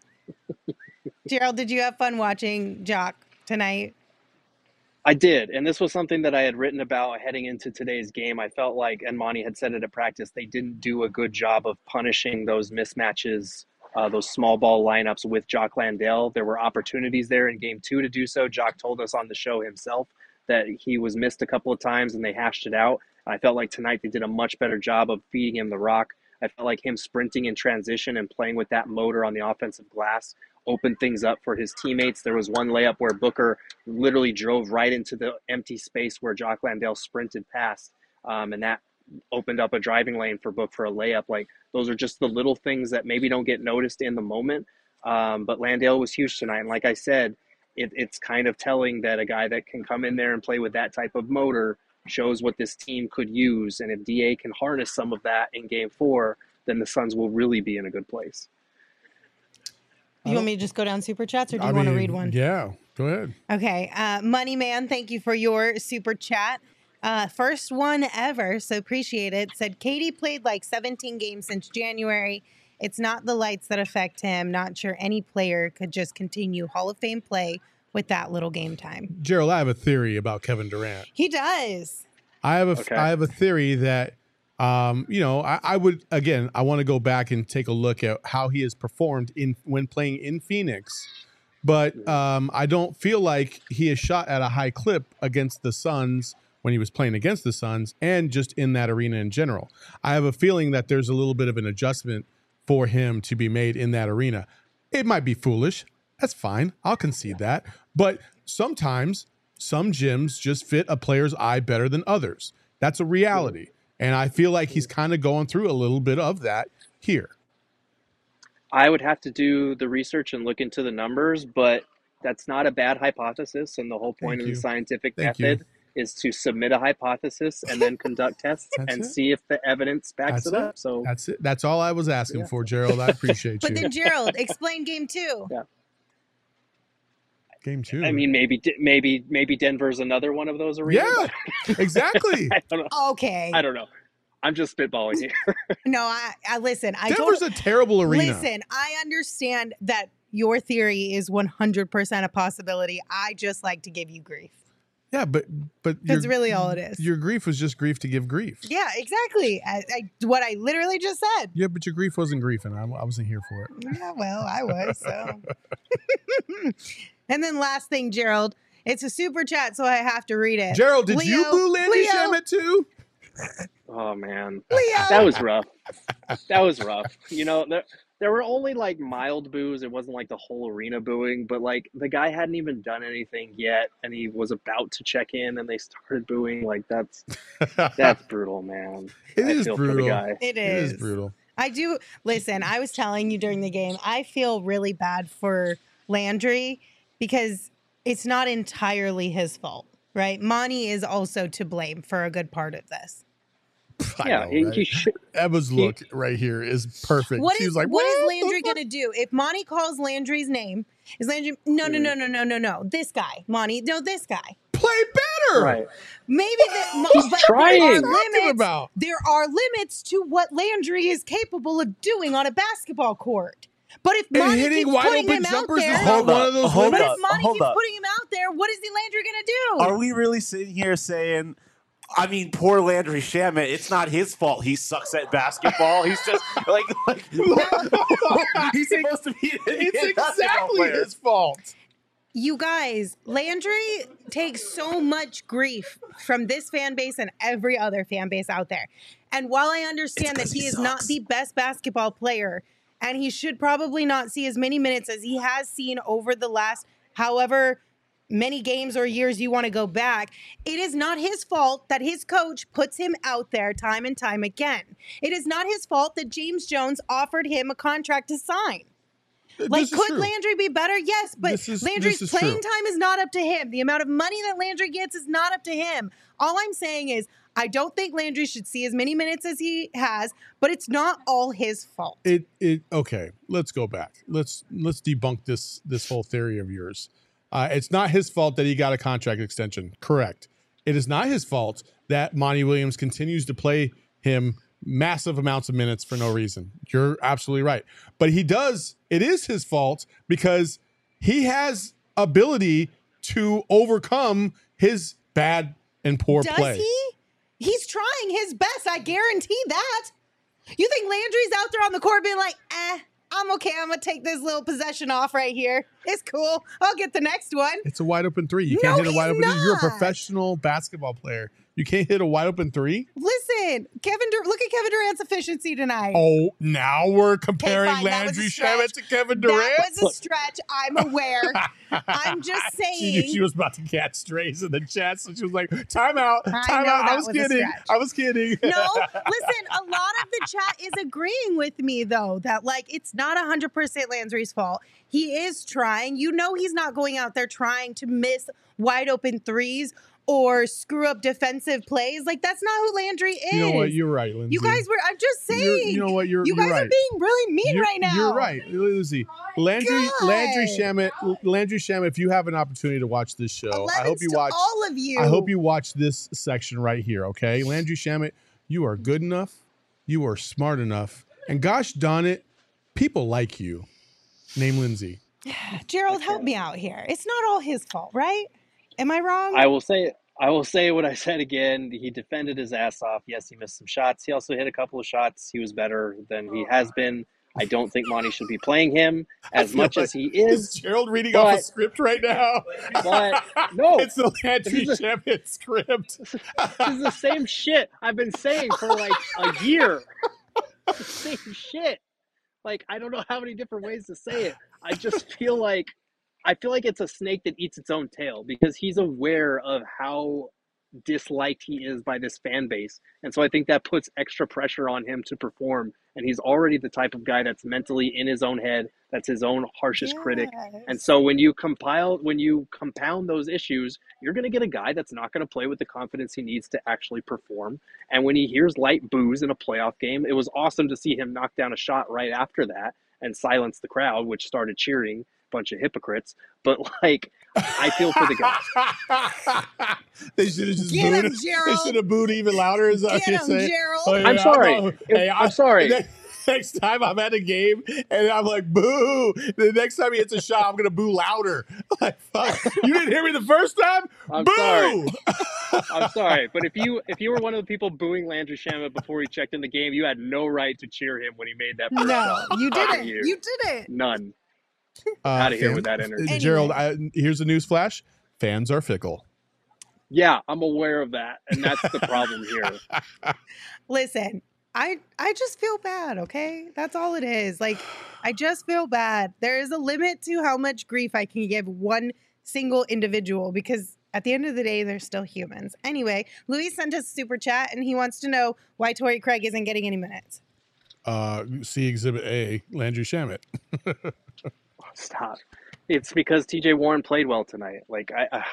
Gerald, did you have fun watching Jock tonight? I did, and this was something that I had written about heading into today's game. I felt like, and Monty had said it at practice, they didn't do a good job of punishing those mismatches, those small ball lineups with Jock Landale. There were opportunities there in Game 2 to do so. Jock told us on the show himself that he was missed a couple of times and they hashed it out. I felt like tonight they did a much better job of feeding him the rock. I felt like him sprinting in transition and playing with that motor on the offensive glass opened things up for his teammates. There was one layup where Booker literally drove right into the empty space where Jock Landale sprinted past, and that opened up a driving lane for Book for a layup. Like, those are just the little things that maybe don't get noticed in the moment, but Landale was huge tonight. And like I said, it's kind of telling that a guy that can come in there and play with that type of motor shows what this team could use. And if DA can harness some of that in Game 4, then the Suns will really be in a good place. You want me to just go down Super Chats, or do you want to read one? Yeah, go ahead. Okay. Money Man, thank you for your Super Chat. First one ever, so appreciate it. Said, KD played like 17 games since January. It's not the lights that affect him. Not sure any player could just continue Hall of Fame play with that little game time. Gerald, I have a theory about Kevin Durant. He does. I have a theory that, I would, again, I want to go back and take a look at how he has performed when playing in Phoenix. But I don't feel like he has shot at a high clip against the Suns when he was playing against the Suns and just in that arena in general. I have a feeling that there's a little bit of an adjustment for him to be made in that arena. It might be foolish. That's fine. I'll concede that. But sometimes some gyms just fit a player's eye better than others. That's a reality. And I feel like he's kind of going through a little bit of that here. I would have to do the research and look into the numbers, but that's not a bad hypothesis. And the whole point of the scientific method is to submit a hypothesis and then conduct tests and see if the evidence backs it up. So that's it. That's all I was asking for, Gerald. I appreciate you. But then, Gerald, explain Game 2. Yeah. Game 2. I mean, maybe Denver's another one of those arenas. Yeah, exactly. I don't know. Okay. I don't know. I'm just spitballing here. No, I listen. Denver's a terrible arena. Listen, I understand that your theory is 100% a possibility. I just like to give you grief. Yeah, but That's really all it is. Your grief was just grief to give grief. Yeah, exactly. What I literally just said. Yeah, but your grief wasn't grief, and I wasn't here for it. Yeah, well, I was. So. And then last thing, Gerald. It's a super chat, so I have to read it. Gerald, did you boo Landry Shamet too? Oh man, Leo. that was rough. That was rough. You know, there were only like mild boos. It wasn't like the whole arena booing, but like the guy hadn't even done anything yet, and he was about to check in, and they started booing. Like that's brutal, man. It I is feel brutal. For the guy. It It is. is brutal. I do. Listen, I was telling you during the game, I feel really bad for Landry because it's not entirely his fault, right? Monty is also to blame for a good part of this. Yeah, he should. Emma's look right here is perfect. She was like, what is Landry going to do? If Monty calls Landry's name, is Landry, no. This guy, Monty, no, this guy. Play better. Right. Maybe He's trying. There are limits to what Landry is capable of doing on a basketball court. But if Monty hitting keeps wide putting open him out jumpers there, is not one of those hold but limits. if Monty hold keeps up. putting him out there, what is the Landry going to do? Are we really sitting here saying, I mean, poor Landry Shamet, it's not his fault he sucks at basketball. He's just like he's supposed to be It's a basketball exactly player. his fault. You guys, Landry takes so much grief from this fan base and every other fan base out there. And while I understand that he is not the best basketball player, and he should probably not see as many minutes as he has seen over the last however many games or years you want to go back, it is not his fault that his coach puts him out there time and time again. It is not his fault that James Jones offered him a contract to sign. Like, could true. Landry be better? Yes, but Landry's this is playing true. time is not up to him. The amount of money that Landry gets is not up to him. All I'm saying is, I don't think Landry should see as many minutes as he has, but it's not all his fault. Okay, let's go back. Let's debunk this whole theory of yours. It's not his fault that he got a contract extension. Correct. It is not his fault that Monty Williams continues to play him massive amounts of minutes for no reason. You're absolutely right. But it is his fault because he has ability to overcome his bad and poor play. Does he? He's trying his best. I guarantee that. You think Landry's out there on the court being like, I'm okay. I'm going to take this little possession off right here. It's cool. I'll get the next one. It's a wide open three. You can't hit a wide open three. You're a professional basketball player. You can't hit a wide open three? Listen, look at Kevin Durant's efficiency tonight. Oh, now we're comparing fine, that was Landry a stretch. Shamet to Kevin Durant? That was a stretch. I'm aware. I'm just She saying. knew she was about to catch strays in the chat, so she was like, time out. I Time know out. that I was was a kidding. stretch. I was kidding. No, listen, a lot of the chat is agreeing with me, though, that, like, it's not 100% Landry's fault. He is trying. You know he's not going out there trying to miss wide open threes or screw up defensive plays. Like, that's not who Landry is. You know what? You're right, Lindsay. You guys were, I'm just saying. You know what? You're You guys right. are being really mean right now. You're right, Lindsay. Landry Shamet, if you have an opportunity to watch this show, I hope you watch all of you. I hope you watch this section right here, okay? Landry Shamet, you are good enough, you are smart enough, and gosh darn it, people like you. Name Lindsay. Gerald, help me out here. It's not all his fault, right? Am I wrong? I will say what I said again. He defended his ass off. Yes, he missed some shots. He also hit a couple of shots. He was better than he has been. I don't think Monty should be playing him as much as he is. Is Gerald reading off a script right now? But no, It's the Landry Shamet script. This is the same shit I've been saying for like a year. It's the same shit. Like, I don't know how many different ways to say it. I feel like it's a snake that eats its own tail because he's aware of how disliked he is by this fan base. And so I think that puts extra pressure on him to perform. And he's already the type of guy that's mentally in his own head, that's his own harshest critic. And so when you compound those issues, you're going to get a guy that's not going to play with the confidence he needs to actually perform. And when he hears light boos in a playoff game, it was awesome to see him knock down a shot right after that and silence the crowd, which started cheering. bunch of hypocrites. But like, I feel for the guys. They should have just Get him, booed. They Gerald. should have booed even louder. Is that what Get you're him, saying? Gerald. Oh, yeah, I'm sorry. no. Hey, I'm sorry. Next time I'm at a game and I'm like, boo. The next time he hits a shot, I'm gonna boo louder. Like, fuck. You didn't hear me the first time? I'm boo! sorry. I'm sorry, but if you were one of the people booing Landry Shamet before he checked in the game, you had no right to cheer him when he made that first No, shot. you Fuck didn't. you. You didn't. None. Out of here Fan- with that energy. Gerald, here's a news flash. Fans are fickle. Yeah, I'm aware of that, and that's the problem here. Listen, I just feel bad, okay? That's all it is. Like, I just feel bad. There is a limit to how much grief I can give one single individual because at the end of the day, they're still humans. Anyway, Luis sent us a super chat, and he wants to know why Torrey Craig isn't getting any minutes. See Exhibit A, Landry Shamet. Stop. It's because TJ Warren played well tonight. Like,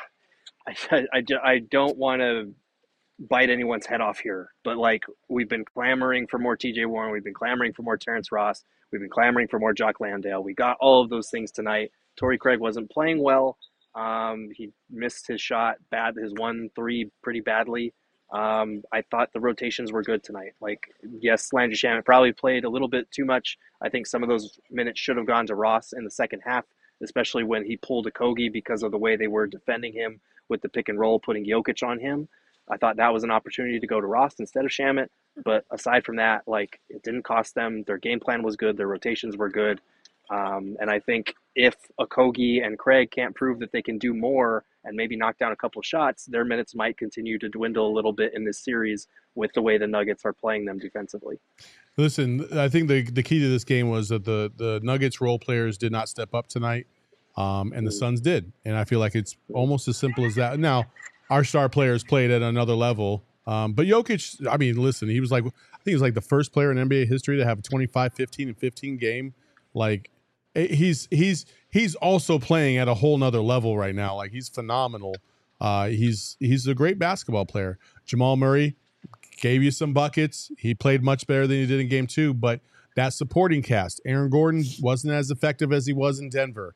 I don't want to bite anyone's head off here, but like, we've been clamoring for more TJ Warren. We've been clamoring for more Terrence Ross. We've been clamoring for more Jock Landale. We got all of those things tonight. Torrey Craig wasn't playing well. He missed his shot his 1-3 pretty badly. I thought the rotations were good tonight. Like, yes, Landry Shamet probably played a little bit too much. I think some of those minutes should have gone to Ross in the second half, especially when he pulled a Kogi because of the way they were defending him with the pick and roll, putting Jokic on him. I thought that was an opportunity to go to Ross instead of Shamet. But aside from that, like, it didn't cost them. Their game plan was good. Their rotations were good. And I think if Okogie and Craig can't prove that they can do more and maybe knock down a couple of shots, their minutes might continue to dwindle a little bit in this series with the way the Nuggets are playing them defensively. Listen, I think the key to this game was that the Nuggets role players did not step up tonight, and the Suns did. And I feel like it's almost as simple as that. Now, our star players played at another level. But Jokic, I mean, listen, he was like, I think he was like the first player in NBA history to have a 25, 15, and 15 game. Like, he's also playing at a whole nother level right now. Like, he's phenomenal. He's a great basketball player. Jamal Murray gave you some buckets. He played much better than he did in game 2, but that supporting cast, Aaron Gordon wasn't as effective as he was in Denver.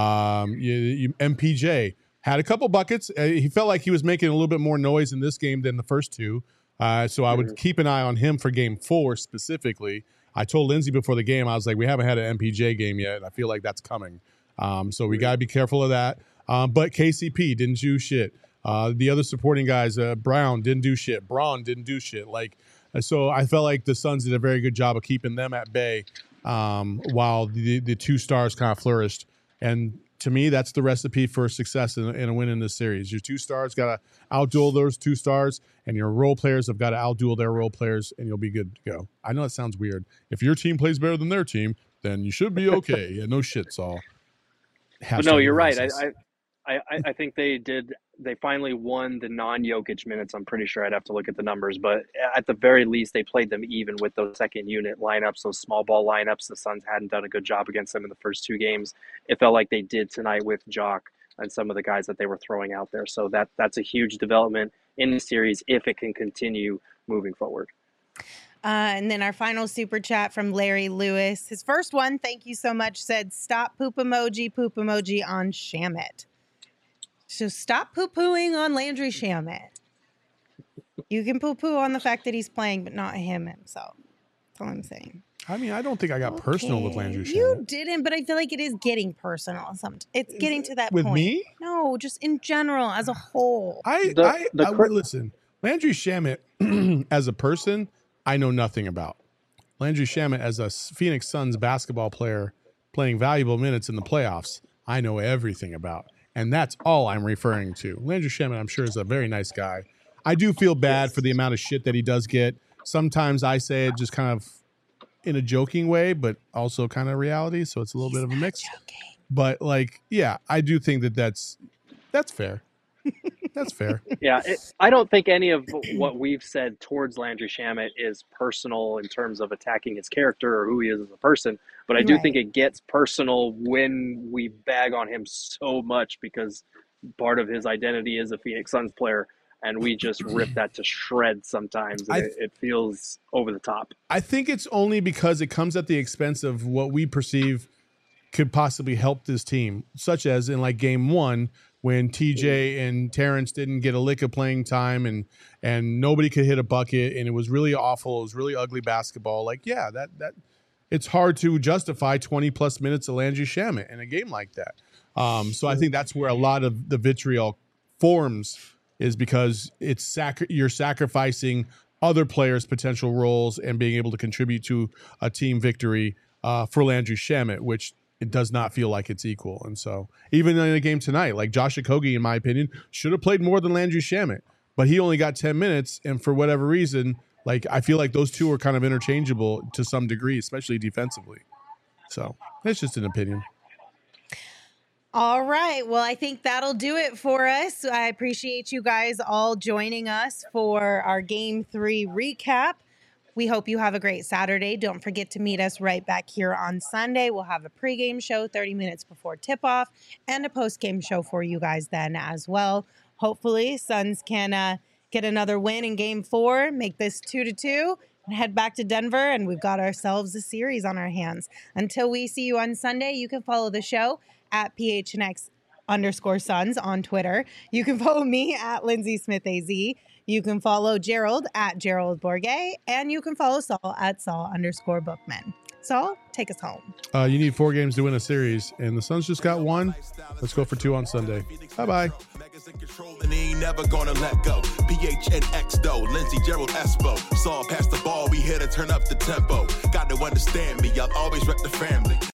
MPJ had a couple buckets. He felt like he was making a little bit more noise in this game than the first two. So I would keep an eye on him for game 4 specifically. I told Lindsay before the game, I was like, we haven't had an MPJ game yet, and I feel like that's coming. So we got to be careful of that. But KCP didn't do shit. The other supporting guys, Brown didn't do shit. Braun didn't do shit. Like, so I felt like the Suns did a very good job of keeping them at bay while the two stars kind of flourished. And to me, that's the recipe for success in a win in this series. Your two stars got to outduel those two stars, and your role players have got to outduel their role players, and you'll be good to go. I know it sounds weird. If your team plays better than their team, then you should be okay. Yeah, no shit, Saul. But no, you're right. I think they did. They finally won the non-Jokic minutes. I'm pretty sure I'd have to look at the numbers, but at the very least, they played them even with those second unit lineups, those small ball lineups. The Suns hadn't done a good job against them in the first two games. It felt like they did tonight with Jock and some of the guys that they were throwing out there. So that's a huge development in the series if it can continue moving forward. And then our final super chat from Larry Lewis. His first one, thank you so much, said, stop poop emoji on Shamet. So stop poo-pooing on Landry Shamet. You can poo-poo on the fact that he's playing, but not him himself. That's all I'm saying. I mean, I don't think I got personal with Landry Shamet. You didn't, but I feel like it is getting personal. It's getting to that point. With me? No, just in general, as a whole. Listen, Landry Shamet, as a person, I know nothing about. Landry Shamet, as a Phoenix Suns basketball player playing valuable minutes in the playoffs, I know everything about. And that's all I'm referring to. Landry Shamet, I'm sure, is a very nice guy. I do feel bad for the amount of shit that he does get. Sometimes I say it just kind of in a joking way, but also kind of reality. So it's a little bit of a mix. But like, yeah, I do think that's fair. That's fair. Yeah, I don't think any of what we've said towards Landry Shamet is personal in terms of attacking his character or who he is as a person. But I do think it gets personal when we bag on him so much because part of his identity is a Phoenix Suns player, and we just rip that to shreds sometimes. And it feels over the top. I think it's only because it comes at the expense of what we perceive could possibly help this team, such as in like game 1 when TJ and Terrence didn't get a lick of playing time and nobody could hit a bucket and it was really awful. It was really ugly basketball. Like, yeah, that it's hard to justify 20 plus minutes of Landry Shamet in a game like that. So I think that's where a lot of the vitriol forms, is because it's you're sacrificing other players' potential roles and being able to contribute to a team victory for Landry Shamet, which it does not feel like it's equal. And so even in a game tonight, like Josh Okogie, in my opinion, should have played more than Landry Shamet, but he only got 10 minutes. And for whatever reason, like I feel like those two are kind of interchangeable to some degree, especially defensively. So it's just an opinion. All right. Well, I think that'll do it for us. I appreciate you guys all joining us for our Game 3 recap. We hope you have a great Saturday. Don't forget to meet us right back here on Sunday. We'll have a pregame show 30 minutes before tip-off and a postgame show for you guys then as well. Hopefully, Suns can get another win in Game 4, make this 2-2, and head back to Denver, and we've got ourselves a series on our hands. Until we see you on Sunday, you can follow the show at PHNX_Suns on Twitter. You can follow me at Lindsay Smith AZ. You can follow Gerald at Gerald Bourget, and you can follow Saul at Saul_Bookman. Saul, take us home. You need 4 games to win a series, and the Suns just got 1. Let's go for 2 on Sunday. Bye-bye. And he ain't never gonna let go. PHNX though, Lindsey, Gerald, Espo. Saul pass the ball, we here to turn up the tempo. Got to understand me, I'll always wreck the family.